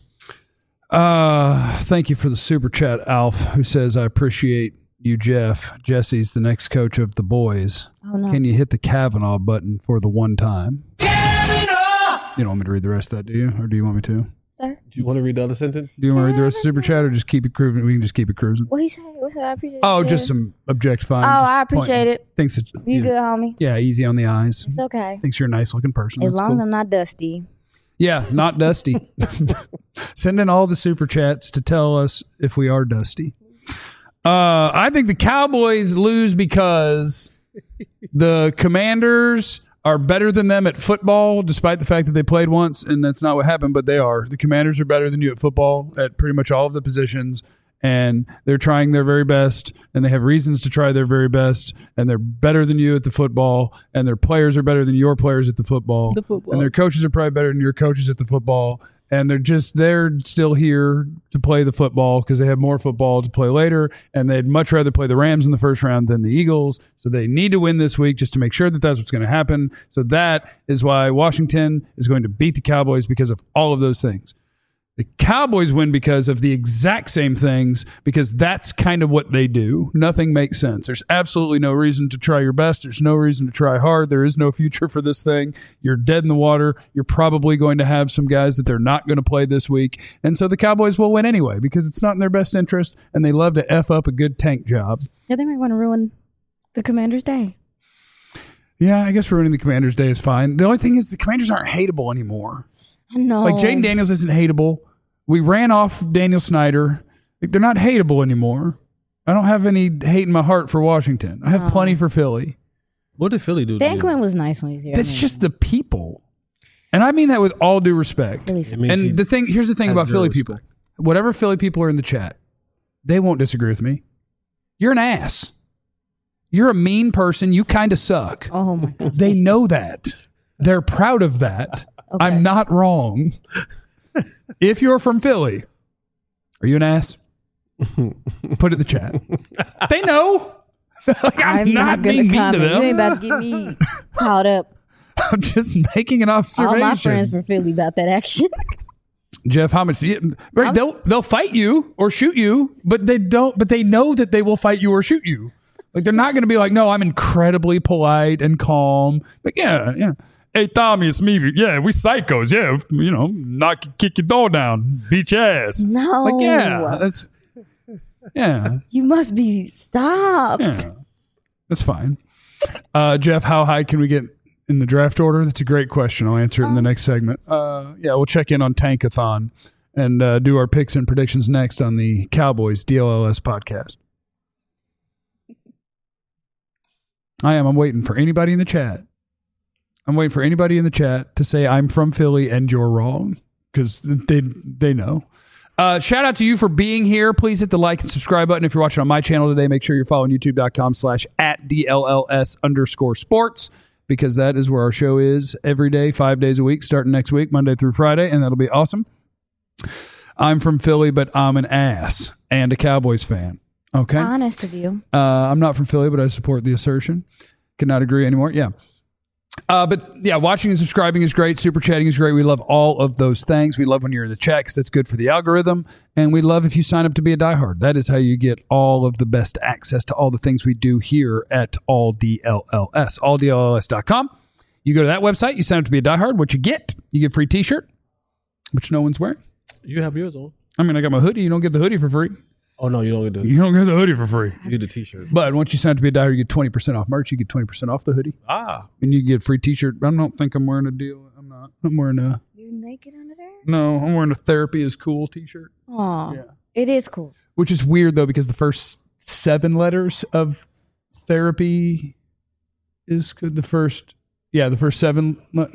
S1: Uh, thank you for the super chat, Alf, who says, I appreciate you, Jeff. Jesse's the next coach of the boys.
S3: Oh, no.
S1: Can you hit the Kavanaugh button for the one time? Kavanaugh! You don't want me to read the rest of that, do you? Or do you want me to?
S3: Sir?
S2: Do you want to read the other sentence?
S1: Do you want to read the rest of the super chat or just keep it cruising? We can just keep it cruising.
S3: What he say? What's that? I appreciate it.
S1: Oh,
S3: Yeah.
S1: just some objectifying.
S3: Oh,
S1: just
S3: I appreciate
S1: pointing.
S3: it.
S1: Thinks that,
S3: You
S1: know,
S3: good, homie?
S1: Yeah, easy on the eyes.
S3: It's okay.
S1: Thinks you're a nice looking person.
S3: As
S1: That's
S3: long
S1: cool.
S3: as I'm not dusty.
S1: Yeah, not dusty. Send in all the super chats to tell us if we are dusty. Uh, I think the Cowboys lose because the Commanders are better than them at football, despite the fact that they played once, and that's not what happened, but they are. The Commanders are better than you at football at pretty much all of the positions, and they're trying their very best, and they have reasons to try their very best, and they're better than you at the football, and their players are better than your players at the football,
S2: The football.
S1: and their coaches are probably better than your coaches at the football, and they're just they're still here to play the football because they have more football to play later, and they'd much rather play the Rams in the first round than the Eagles, so they need to win this week just to make sure that that's what's going to happen. So that is why Washington is going to beat the Cowboys, because of all of those things. The Cowboys win because of the exact same things, because that's kind of what they do. Nothing makes sense. There's absolutely no reason to try your best. There's no reason to try hard. There is no future for this thing. You're dead in the water. You're probably going to have some guys that they're not going to play this week. And so the Cowboys will win anyway, because it's not in their best interest, and they love to F up a good tank job.
S3: Yeah, they might want to ruin the Commander's day.
S1: Yeah, I guess ruining the Commanders' day is fine. The only thing is the Commanders aren't hateable anymore.
S3: I know.
S1: Like, Jayden Daniels isn't hateable. We ran off Daniel Snyder. Like, they're not hateable anymore. I don't have any hate in my heart for Washington. I have
S3: Oh.
S1: plenty for Philly.
S2: What did Philly do? to
S3: Dan
S2: you?
S3: Quinn was nice when he was here.
S1: That's
S3: I mean,
S1: just the people. And I mean that with all due respect.
S3: Really
S2: It means he
S1: And the thing, here's the thing
S2: has
S1: about
S2: zero
S1: Philly
S2: respect.
S1: people. Whatever Philly people are in the chat, they won't disagree with me. You're an ass. You're a mean person. You kind of suck.
S3: Oh my god.
S1: They know that. They're proud of that.
S3: Okay.
S1: I'm not wrong. If you're from Philly, Are you an ass? Put it in the chat. They know. Like, I'm,
S3: I'm
S1: not,
S3: not
S1: being
S3: gonna
S1: mean
S3: comment.
S1: to them.
S3: You ain't about to get me caught up.
S1: I'm just making an observation.
S3: All my friends from Philly about that action.
S1: Jeff, how much? Right, they'll they'll fight you or shoot you, but they don't. But they know that they will fight you or shoot you. Like they're not going to be like, no, I'm incredibly polite and calm. Like yeah, yeah. Hey Tommy, it's me. Yeah, we psychos. Yeah, you know, knock, kick your door down, beat your ass.
S3: No.
S1: Like yeah, that's yeah.
S3: You must be stopped.
S1: Yeah, that's fine. Uh, Jeff, how high can we get in the draft order? That's a great question. I'll answer it in the next segment. Uh, yeah, we'll check in on Tankathon and uh, do our picks and predictions next on the Cowboys D L L S podcast. I am. I'm waiting for anybody in the chat. I'm waiting for anybody in the chat to say I'm from Philly and you're wrong because they they know. Uh, shout out to you for being here. Please hit the like and subscribe button. If you're watching on my channel today, make sure you're following youtube.com slash at DLLS underscore sports because that is where our show is every day, five days a week, starting next week, Monday through Friday, and that'll be awesome. I'm from Philly, but I'm an ass and a Cowboys fan. Okay.
S3: Honest of you.
S1: Uh, I'm not from Philly, but I support the assertion. Cannot agree anymore. Yeah. Uh, but yeah, watching and subscribing is great. Super chatting is great. We love all of those things. We love when you're in the chat because that's good for the algorithm. And we love if you sign up to be a diehard. That is how you get all of the best access to all the things we do here at All D L L S, all D L L S dot com. You go to that website, you sign up to be a diehard. What you get? You get a free t-shirt, which no one's wearing.
S2: You have yours on.
S1: I mean, I got my hoodie. You don't get the hoodie for free.
S2: Oh, no, you don't get the
S1: You don't get the hoodie for free.
S2: You get the t-shirt.
S1: But once you sign up to be a diehard, you get twenty percent off merch. You get twenty percent off the hoodie.
S2: Ah.
S1: And you get a free t-shirt. I don't think I'm wearing a deal. I'm not. I'm wearing a...
S3: You naked under there?
S1: No, I'm wearing a therapy is cool t-shirt.
S3: Oh,
S1: Yeah.
S3: it is cool.
S1: Which is weird, though, because the first seven letters of therapy is good. The first... Yeah, the first seven... le-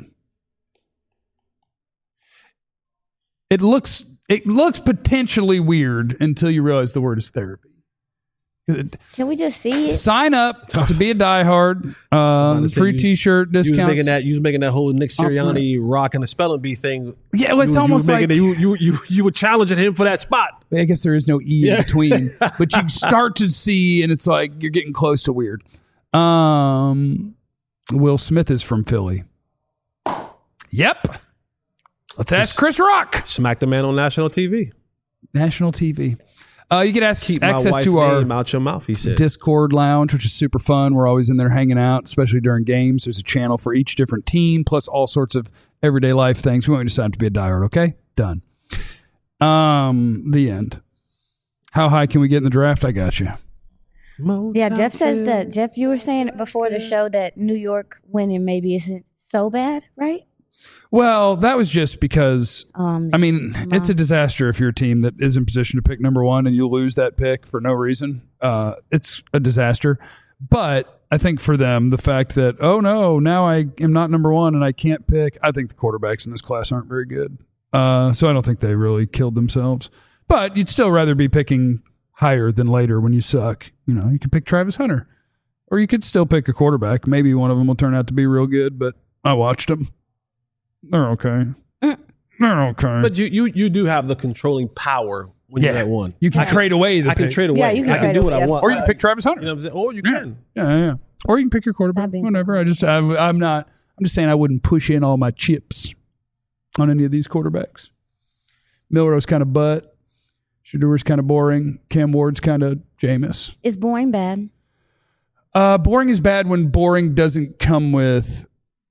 S1: It looks... It looks potentially weird until you realize the word is therapy. It-
S3: Can we just see it?
S1: Sign up to be a diehard. Uh,
S2: to say
S1: free
S2: you-
S1: t-shirt
S2: You was
S1: discounts.
S2: making that. You was making that whole Nick Sirianni rock and the spelling bee thing.
S1: Yeah, well, it's
S2: you,
S1: almost
S2: you
S1: like
S2: making it, you, you you you were challenging him for that spot.
S1: I guess there is no E
S2: Yeah.
S1: in between, but you start to see, and it's like you're getting close to weird. Um, Will Smith is from Philly. Yep. Let's ask Chris Rock.
S2: Smack the man on national T V.
S1: National T V. Uh, you get ac-
S2: Keep my
S1: access
S2: wife's
S1: to our
S2: name out your mouth. He said.
S1: Discord lounge, which is super fun. We're always in there hanging out, especially during games. There's a channel for each different team, plus all sorts of everyday life things. We want you to sign up to be a diehard, okay? Done. Um, the end. How high can we get in the draft? I got you.
S3: Yeah, Jeff says that. Jeff, you were saying before the show that New York winning maybe isn't so bad, right?
S1: Well, that was just because,
S3: Um,
S1: I mean, it's a disaster if you're a team that is in position to pick number one and you lose that pick for no reason. Uh, it's a disaster. But I think for them, the fact that, oh no, now I am not number one and I can't pick, I think the quarterbacks in this class aren't very good. Uh, so I don't think they really killed themselves. But you'd still rather be picking higher than later when you suck. You know, you could pick Travis Hunter. Or you could still pick a quarterback. Maybe one of them will turn out to be real good, but I watched them. They're okay. They're okay.
S2: But you you you do have the controlling power when
S1: Yeah.
S2: you're at one.
S1: You can
S2: I
S1: trade away the
S2: I can
S1: pick.
S2: trade away.
S3: Yeah, you can
S2: I can
S3: trade
S2: do what
S3: away,
S2: I want.
S1: Or you can pick Travis Hunter.
S2: You know what I'm saying? Or you
S1: Yeah.
S2: can.
S1: Yeah, yeah. Or you can pick your quarterback.
S3: That being
S1: Whatever. I just, I, I'm not, I'm just saying I wouldn't push in all my chips on any of these quarterbacks. Milrose kind of butt. Shadour's kind of boring. Cam Ward's kind of Jameis.
S3: is boring bad?
S1: Uh, boring is bad when boring doesn't come with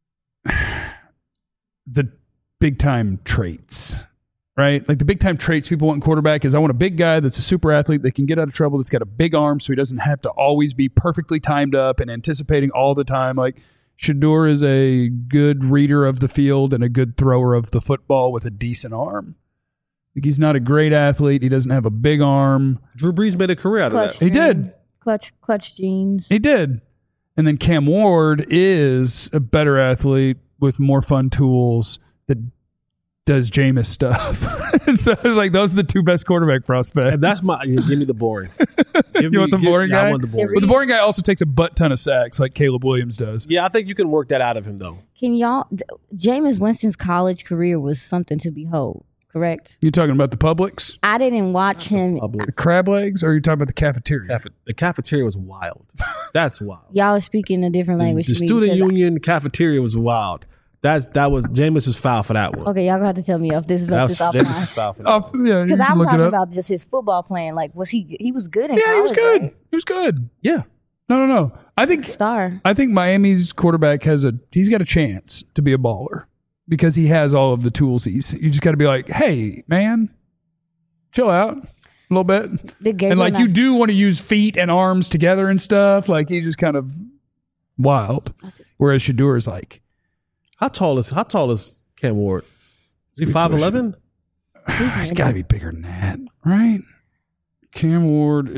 S1: the big time traits, right? Like the big time traits people want in quarterback is I want a big guy that's a super athlete that can get out of trouble, that's got a big arm so he doesn't have to always be perfectly timed up and anticipating all the time. Like Shador is a good reader of the field and a good thrower of the football with a decent arm. Like he's not a great athlete. He doesn't have a big arm.
S2: Drew Brees made a career out of
S3: Clutch.
S2: that.
S1: He did.
S3: Clutch, clutch jeans.
S1: He did. And then Cam Ward is a better athlete with more fun tools that does Jameis stuff. And so like those are the two best quarterback prospects.
S2: And that's my. Give me the boring. Give
S1: You want the
S2: give-
S1: boring
S2: yeah,
S1: guy?
S2: I want the boring.
S1: But the boring guy also takes a butt ton of sacks like Caleb Williams does.
S2: Yeah, I think you can work that out of him though.
S3: Can y'all? D- Jameis Winston's college career was something to behold. correct?
S1: You talking about the Publix?
S3: I didn't watch him.
S2: Public.
S1: Crab legs, or are you talking about the cafeteria?
S2: Cafe- the cafeteria was wild. That's wild.
S3: Y'all are speaking a different language
S2: The
S3: to me.
S2: student
S3: because
S2: union cafeteria was wild. That's that was Jameis was foul for that one.
S3: I, okay, y'all gonna have to tell me if this
S2: that
S3: about
S2: was
S3: this
S2: Jameis was
S3: offline.
S2: foul for that.
S1: Oh,
S2: one.
S1: yeah, you
S3: Because
S1: can
S3: I'm
S1: look it
S3: talking
S1: up.
S3: about just his football playing. Like, was he? He was good in
S1: Yeah, he was
S3: college.
S1: good.
S3: Right?
S1: He was good.
S2: Yeah.
S1: No, no, no. I think
S3: Star.
S1: I think Miami's quarterback has a he's got a chance to be a baller because he has all of the tools. He's you just got to be like, hey, man, chill out a little bit,
S3: Did
S1: and like
S3: Gabriel
S1: you
S3: not-
S1: do want to use feet and arms together and stuff. Like he's just kind of wild. Whereas Shador is like,
S2: How tall is how tall is Cam Ward? Is he five eleven?
S1: he's got to be bigger than that, right? Cam Ward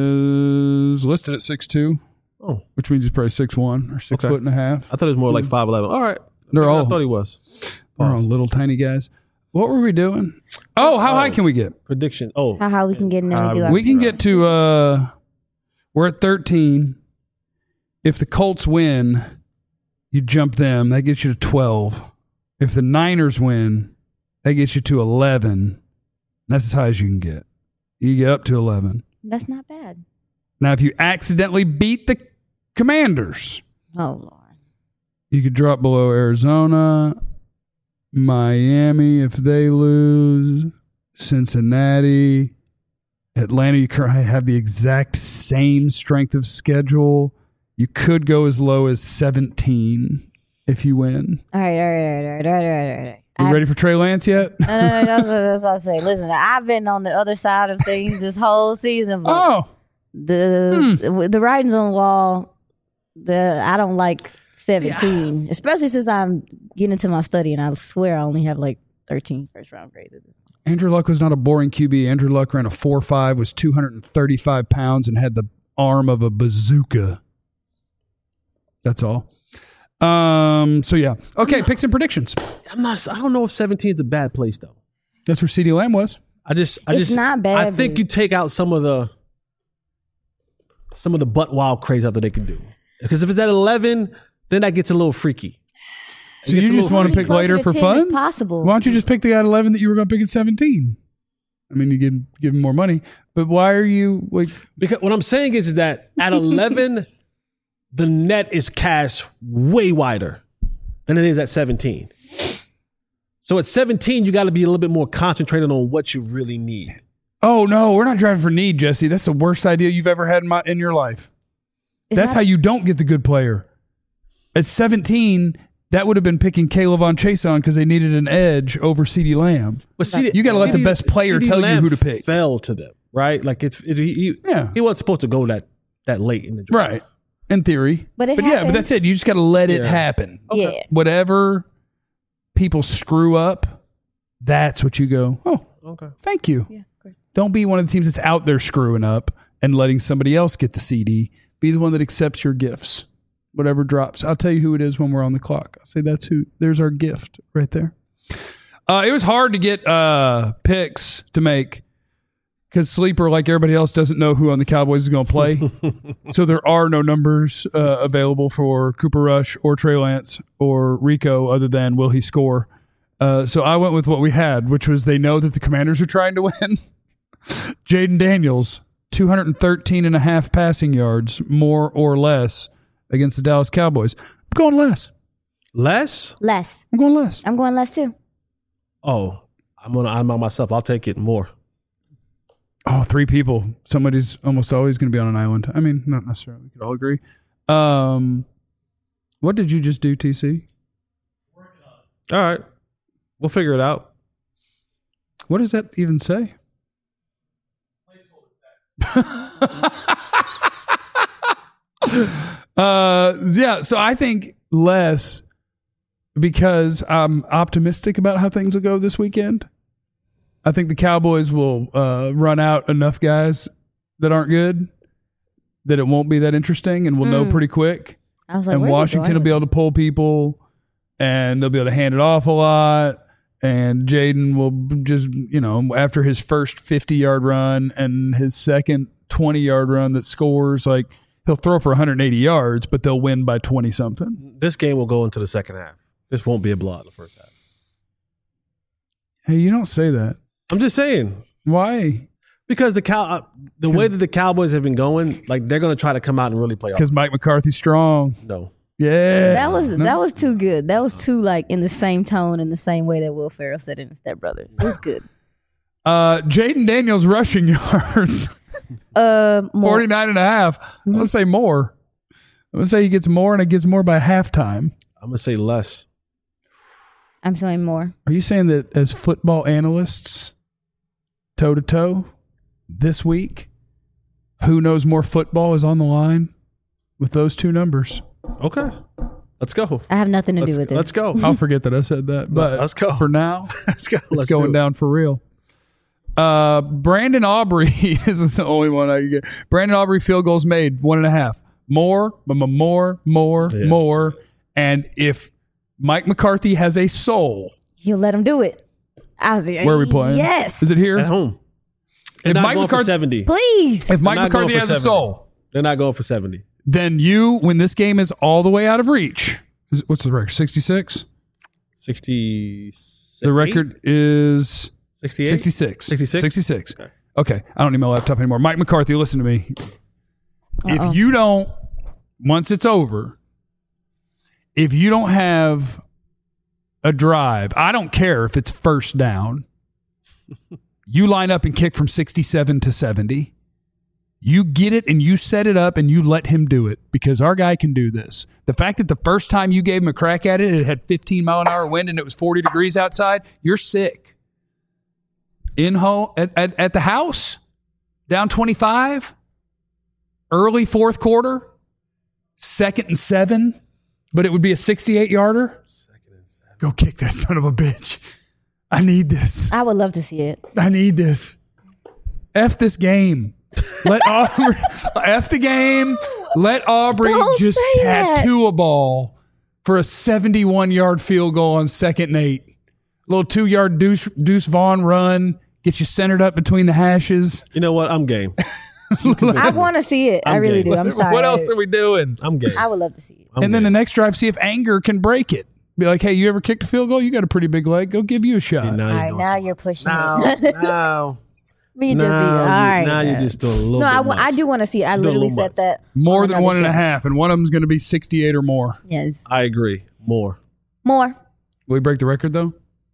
S1: is listed at six two,
S2: Oh,
S1: which means he's probably six one or six
S2: Okay.
S1: foot and a half.
S2: I thought it was more like five eleven. All right.
S1: They're
S2: I
S1: all
S2: thought he was.
S1: They're all little tiny guys. What were we doing? Oh, how high can we get?
S2: Prediction. Oh,
S3: How how we can get in there and do
S2: Uh,
S3: our
S1: We can get to uh we're at thirteen. If the Colts win, you jump them, that gets you to twelve. If the Niners win, that gets you to eleven. That's as high as you can get. You get up to eleven.
S3: That's not bad.
S1: Now, if you accidentally beat the Commanders,
S3: Oh Lord.
S1: you could drop below Arizona, Miami if they lose, Cincinnati, Atlanta. You currently have the exact same strength of schedule. You could go as low as seventeen if you win.
S3: All right, all right, all right, all right, all right, all right, all right.
S1: You
S3: I-
S1: ready for Trey Lance yet?
S3: No, no, no, that's, what- that's what I say. Listen, I've been on the other side of things this whole season. But
S1: Oh,
S3: the the writing's on the wall. The I don't like seventeen, especially since I'm getting into my study, and I swear I only have like thirteen first round grades.
S1: Andrew Luck was not a boring Q B. Andrew Luck ran a four five, was two hundred thirty-five pounds, and had the arm of a bazooka. That's all. Um. So, yeah. Okay, picks and predictions.
S2: I'm not. I don't know if seventeen is a bad place though.
S1: That's where CeeDee Lamb was.
S2: I just. I
S3: It's
S2: just.
S3: not bad,
S2: I think
S3: but-
S2: you take out some of the. Some of the butt wild crazy stuff that they can do. Because if it's at eleven, then that gets a little freaky.
S1: So
S2: gets
S1: you
S2: a
S1: just
S2: little
S1: want to
S2: freaky.
S1: pick
S3: Closer
S1: later
S3: to
S1: for
S3: ten
S1: fun?
S3: as possible.
S1: Why don't you just pick the guy at eleven that you were going to pick at seventeen? I mean, you give, give him more money, but why are you like?
S2: Because what I'm saying is, is that at eleven, the net is cast way wider than it is at seventeen. So at seventeen, you got to be a little bit more concentrated on what you really need.
S1: Oh no, we're not driving for need, Jesse. That's the worst idea you've ever had in, my, in your life.
S3: It's
S1: That's
S3: not-
S1: how you don't get the good player. At seventeen, that would have been picking Caleb on Chase on because they needed an edge over CeeDee Lamb.
S2: But C D,
S1: You gotta let the
S2: C D
S1: best player
S2: C D
S1: tell you
S2: Lamb
S1: who to pick.
S2: Fell to them, right? Like it's it, he, he,
S1: Yeah.
S2: he wasn't supposed to go that that late in the draft.
S1: Right. In theory.
S3: But it
S1: yeah, but
S3: happens.
S1: that's it. You just got to let it
S2: Yeah.
S1: happen.
S3: Yeah.
S1: Whatever people screw up, that's what you go, oh,
S2: Okay.
S1: thank you.
S3: Yeah, of course.
S1: Don't be one of the teams that's out there screwing up and letting somebody else get the C D. Be the one that accepts your gifts. Whatever drops. I'll tell you who it is when we're on the clock. I'll say that's who. There's our gift right there. Uh, it was hard to get uh, picks to make because Sleeper, like everybody else, doesn't know who on the Cowboys is going to play. So there are no numbers uh, available for Cooper Rush or Trey Lance or Rico other than will he score. Uh, so I went with what we had, which was they know that the Commanders are trying to win. Jaden Daniels, two hundred thirteen and a half passing yards, more or less, against the Dallas Cowboys. I'm going less.
S2: Less?
S3: Less.
S1: I'm going less.
S3: I'm going less too.
S2: Oh, I'm gonna I'm on myself. I'll take it more.
S1: Oh, three people. Somebody's almost always going to be on an island. I mean, not necessarily. We could all agree. Um, what did you just do, T C?
S2: All right. We'll figure it out.
S1: What does that even say? uh, yeah, so I think less because I'm optimistic about how things will go this weekend. I think the Cowboys will uh, run out enough guys that aren't good that it won't be that interesting and we'll know pretty quick.
S3: I was like,
S1: And
S3: where's it
S1: Washington will
S3: going?
S1: be able to pull people and they'll be able to hand it off a lot. And Jaden will just, you know, after his first fifty-yard run and his second twenty-yard run that scores, like he'll throw for one hundred eighty yards, but they'll win by twenty-something.
S2: This game will go into the second half. This won't be a blowout in the first half.
S1: Hey, you don't say that.
S2: I'm just saying.
S1: Why?
S2: Because the cow, uh, the way that the Cowboys have been going, like they're going to try to come out and really play.
S1: Because Mike McCarthy's strong.
S2: No.
S1: Yeah.
S3: That was
S1: No?
S3: that was too good. That was too like in the same tone and the same way that Will Ferrell said it in Step Brothers. It was good.
S1: Uh, Jaden Daniels rushing yards.
S3: Uh, more.
S1: forty-nine and a half. I'm going to say more. I'm going to say he gets more, and it gets more by halftime.
S2: I'm going to say less.
S3: I'm saying more.
S1: Are you saying that as football analysts, toe-to-toe, this week, who knows more football is on the line with those two numbers?
S2: Okay. Let's go.
S3: I have nothing to
S2: Let's,
S3: do with it.
S2: let's go.
S1: I'll forget that I said that. But
S2: Let's go.
S1: for now,
S2: Let's go.
S1: it's
S2: Let's do
S1: going
S2: it.
S1: down for real. Uh, Brandon Aubrey, this is the only one I can get. Brandon Aubrey field goals made, one and a half. More, m- m- more, more,
S2: Yes.
S1: more. And if Mike McCarthy has a soul,
S3: He'll let him do it. I was like,
S1: where are we playing?
S3: Yes.
S1: Is it here?
S2: At home. They're
S1: If
S2: not
S1: Mike
S2: going for
S1: McCarthy,
S2: seventy.
S3: Please.
S1: if Mike
S2: They're not going
S1: McCarthy
S2: for
S1: has a
S2: seventy.
S1: soul,
S2: They're not going for seventy.
S1: then you, when this game is all the way out of reach, is, what's the record? sixty-six?
S2: sixty.
S1: The record is
S2: sixty-eight.
S1: sixty-six.
S2: sixty-six?
S1: sixty-six.
S2: Okay.
S1: Okay. I don't need my laptop anymore. Mike McCarthy, listen to me.
S3: Uh-oh.
S1: If you don't, once it's over, if you don't have a drive, I don't care if it's first down, you line up and kick from sixty-seven to seventy. You get it and you set it up and you let him do it because our guy can do this. The fact that the first time you gave him a crack at it, it had fifteen mile an hour wind and it was forty degrees outside, you're sick. In home at, at, at the house, down twenty-five, early fourth quarter, second and seven, but it would be a sixty-eight yarder. Second and seven. Go kick that son of a bitch. I need this.
S3: I would love to see it.
S1: I need this. F this game. Let Aubrey F the game. Let Aubrey
S3: Don't
S1: just
S3: say that.
S1: tattoo a ball for a seventy-one yard field goal on second and eight. Little two yard Deuce, Deuce Vaughn run. Gets you centered up between the hashes.
S2: You know what? I'm game.
S3: I want to see it. I
S2: I'm
S3: really
S2: game.
S3: do. I'm sorry.
S1: What else are we doing?
S2: I'm game.
S3: I would love to see it.
S2: I'm
S1: and then the
S2: game.
S1: next drive, see if anger can break it. Be like, hey, you ever kicked a field goal? You got a pretty big leg. Go give you a shot.
S2: See, now
S3: All
S2: you're
S3: right,
S2: doing
S3: now
S2: too
S3: you're pushing
S2: much.
S3: it.
S2: Now, now,
S3: Me and Jesse.
S2: now,
S3: All
S2: you-
S3: right.
S2: now you're just doing a little
S3: No,
S2: bit
S3: I, wa-
S2: much.
S3: I do want to see it. I
S2: Doing a
S3: literally
S2: little
S3: said
S2: much.
S3: that.
S1: More
S3: on
S1: than
S3: another
S1: one and a
S3: show.
S1: half, and one of them's going to be sixty-eight or more.
S3: Yes.
S2: I agree. More.
S3: More.
S1: Will we break the record, though?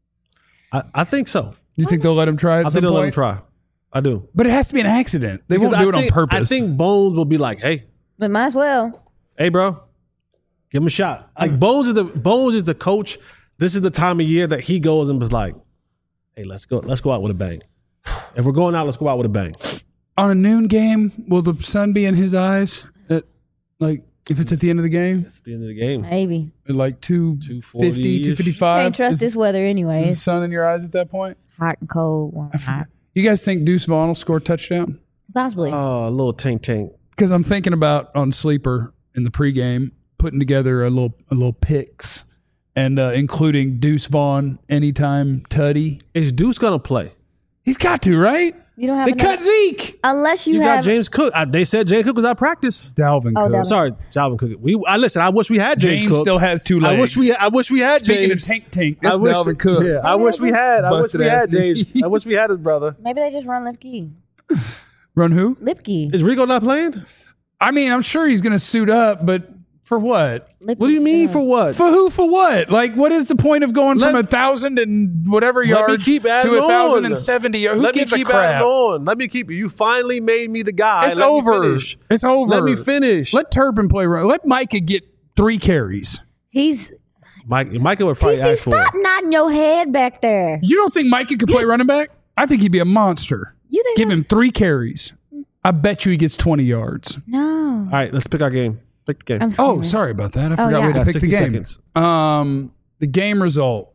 S2: I, I think so.
S1: You think they'll let him try at
S2: I
S1: some
S2: think they'll let him
S1: point?
S2: try. I do.
S1: But it has to be an accident. They
S2: Because
S1: won't do
S2: I
S1: it
S2: think-
S1: on purpose.
S2: I think Bones will be like, hey,
S3: But might as well.
S2: hey, bro, give him a shot. Like Bones is the Bones is the coach. This is the time of year that he goes and was like, hey, let's go, let's go out with a bang. If we're going out, let's go out with a bang.
S1: on a noon game, will the sun be in his eyes? At like if it's at the end of the game,
S2: It's the end of the game.
S3: Maybe.
S1: at like two fifty, two
S2: two
S1: fifty-five.
S3: Can't trust
S1: is,
S3: this weather
S1: is the
S3: anyways.
S1: sun in your eyes at that point?
S3: Hot and cold, warm and hot.
S1: You guys think Deuce Vaughn will score a touchdown?
S3: Possibly.
S2: Oh, a little tank tank.
S1: Because I'm thinking about on Sleeper in the pregame putting together a little a little picks and uh, including Deuce Vaughn anytime tutty.
S2: Is Deuce gonna play?
S1: He's got to, right?
S3: you don't have
S1: They
S3: enough-
S1: cut Zeke.
S3: unless you,
S2: You
S3: have
S2: got James Cook. I, they said James Cook was out practice.
S1: Dalvin
S3: Oh,
S1: Cook.
S3: Dalvin.
S2: Sorry, Jalvin Cook. We I listen. I wish we had James,
S1: James
S2: Cook.
S1: still has two legs.
S2: I wish we. I wish we had
S1: Speaking
S2: James.
S1: of Tank Tank,
S2: I
S1: that's
S2: wish,
S1: Dalvin Cook.
S2: Yeah, I
S3: Maybe
S2: wish
S3: they
S2: we
S3: just
S2: had. I wish
S1: busted
S2: we
S1: ass
S2: had James.
S1: knee.
S2: I wish we had his brother.
S3: maybe they just run Lipke.
S1: Run who?
S3: Lipke.
S2: Is Rico not playing?
S1: I mean, I'm sure he's going to suit up, but for what?
S2: What do you mean for what?
S1: For who? For what? Like, what is the point of going
S2: Let-
S1: from a thousand and whatever
S2: Let me
S1: yards
S2: keep adding
S1: to a thousand
S2: on.
S1: and seventy? Who
S2: Let me
S1: gives
S2: keep
S1: a crap?
S2: adding on. Let me keep. You finally made me the guy.
S1: It's
S2: Let me
S1: over.
S2: finish.
S1: It's over.
S2: Let me finish.
S1: Let Turpin play. Run. Let Micah get three carries.
S3: He's
S2: Mike. Michael would probably
S3: T C,
S2: ask for
S3: stop
S2: it.
S3: nodding your head back there.
S1: You don't think Micah could play running back? I think he'd be a monster.
S3: You think
S1: Give
S3: that-
S1: him three carries. I bet you he gets twenty yards.
S3: No.
S2: All right, let's pick our game. Pick the game.
S3: I'm
S1: Oh,
S3: scared.
S1: sorry about that. I
S3: Oh,
S1: forgot
S3: yeah.
S1: we had to
S2: Yeah,
S1: pick the
S2: sixty
S1: game.
S2: seconds.
S1: Um, the game result: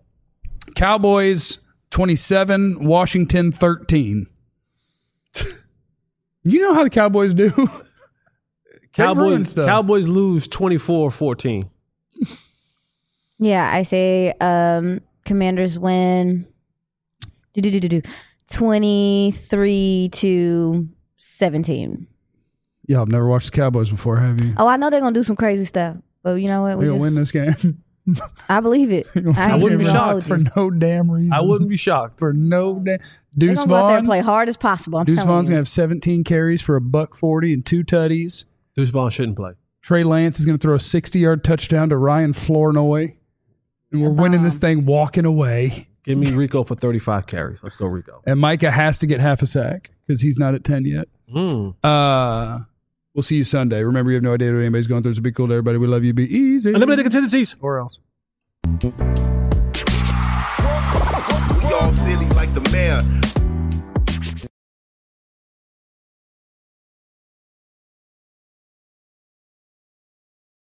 S1: Cowboys twenty-seven, Washington thirteen. You know how the Cowboys do. ruin
S2: Cowboys.
S1: stuff.
S2: Cowboys lose twenty-four fourteen.
S3: Yeah, I say um, Commanders win. Do do do do do. Twenty-three to seventeen.
S1: Y'all have never watched the Cowboys before, have you?
S3: Oh, I know they're gonna do some crazy stuff, but you know what?
S1: We're
S3: We
S1: going to
S3: just
S1: win this game.
S3: I believe it. I,
S2: I wouldn't be
S3: ain't gonna
S2: shocked
S3: hold
S1: for
S3: you.
S1: no damn reason.
S2: I wouldn't be shocked.
S1: for no damn.
S3: They're
S1: Deuce
S3: gonna go out there
S1: Vaughn.
S3: and play hard as possible. I'm
S1: Deuce
S3: telling
S1: Vaughn's
S3: you.
S1: gonna have seventeen carries for a buck forty and two tutties.
S2: Deuce Vaughn shouldn't play.
S1: Trey Lance is gonna throw a sixty-yard touchdown to Ryan Flournoy, and we're winning this thing walking away.
S2: Give me Rico for thirty-five carries. Let's go, Rico.
S1: And Micah has to get half a sack because he's not at ten yet.
S2: Mm.
S1: Uh, we'll see you Sunday. Remember, you have no idea what anybody's going through. So be cool to everybody. We love you. Be easy.
S2: Eliminated contingencies.
S1: Or else.
S5: We all silly like the mayor.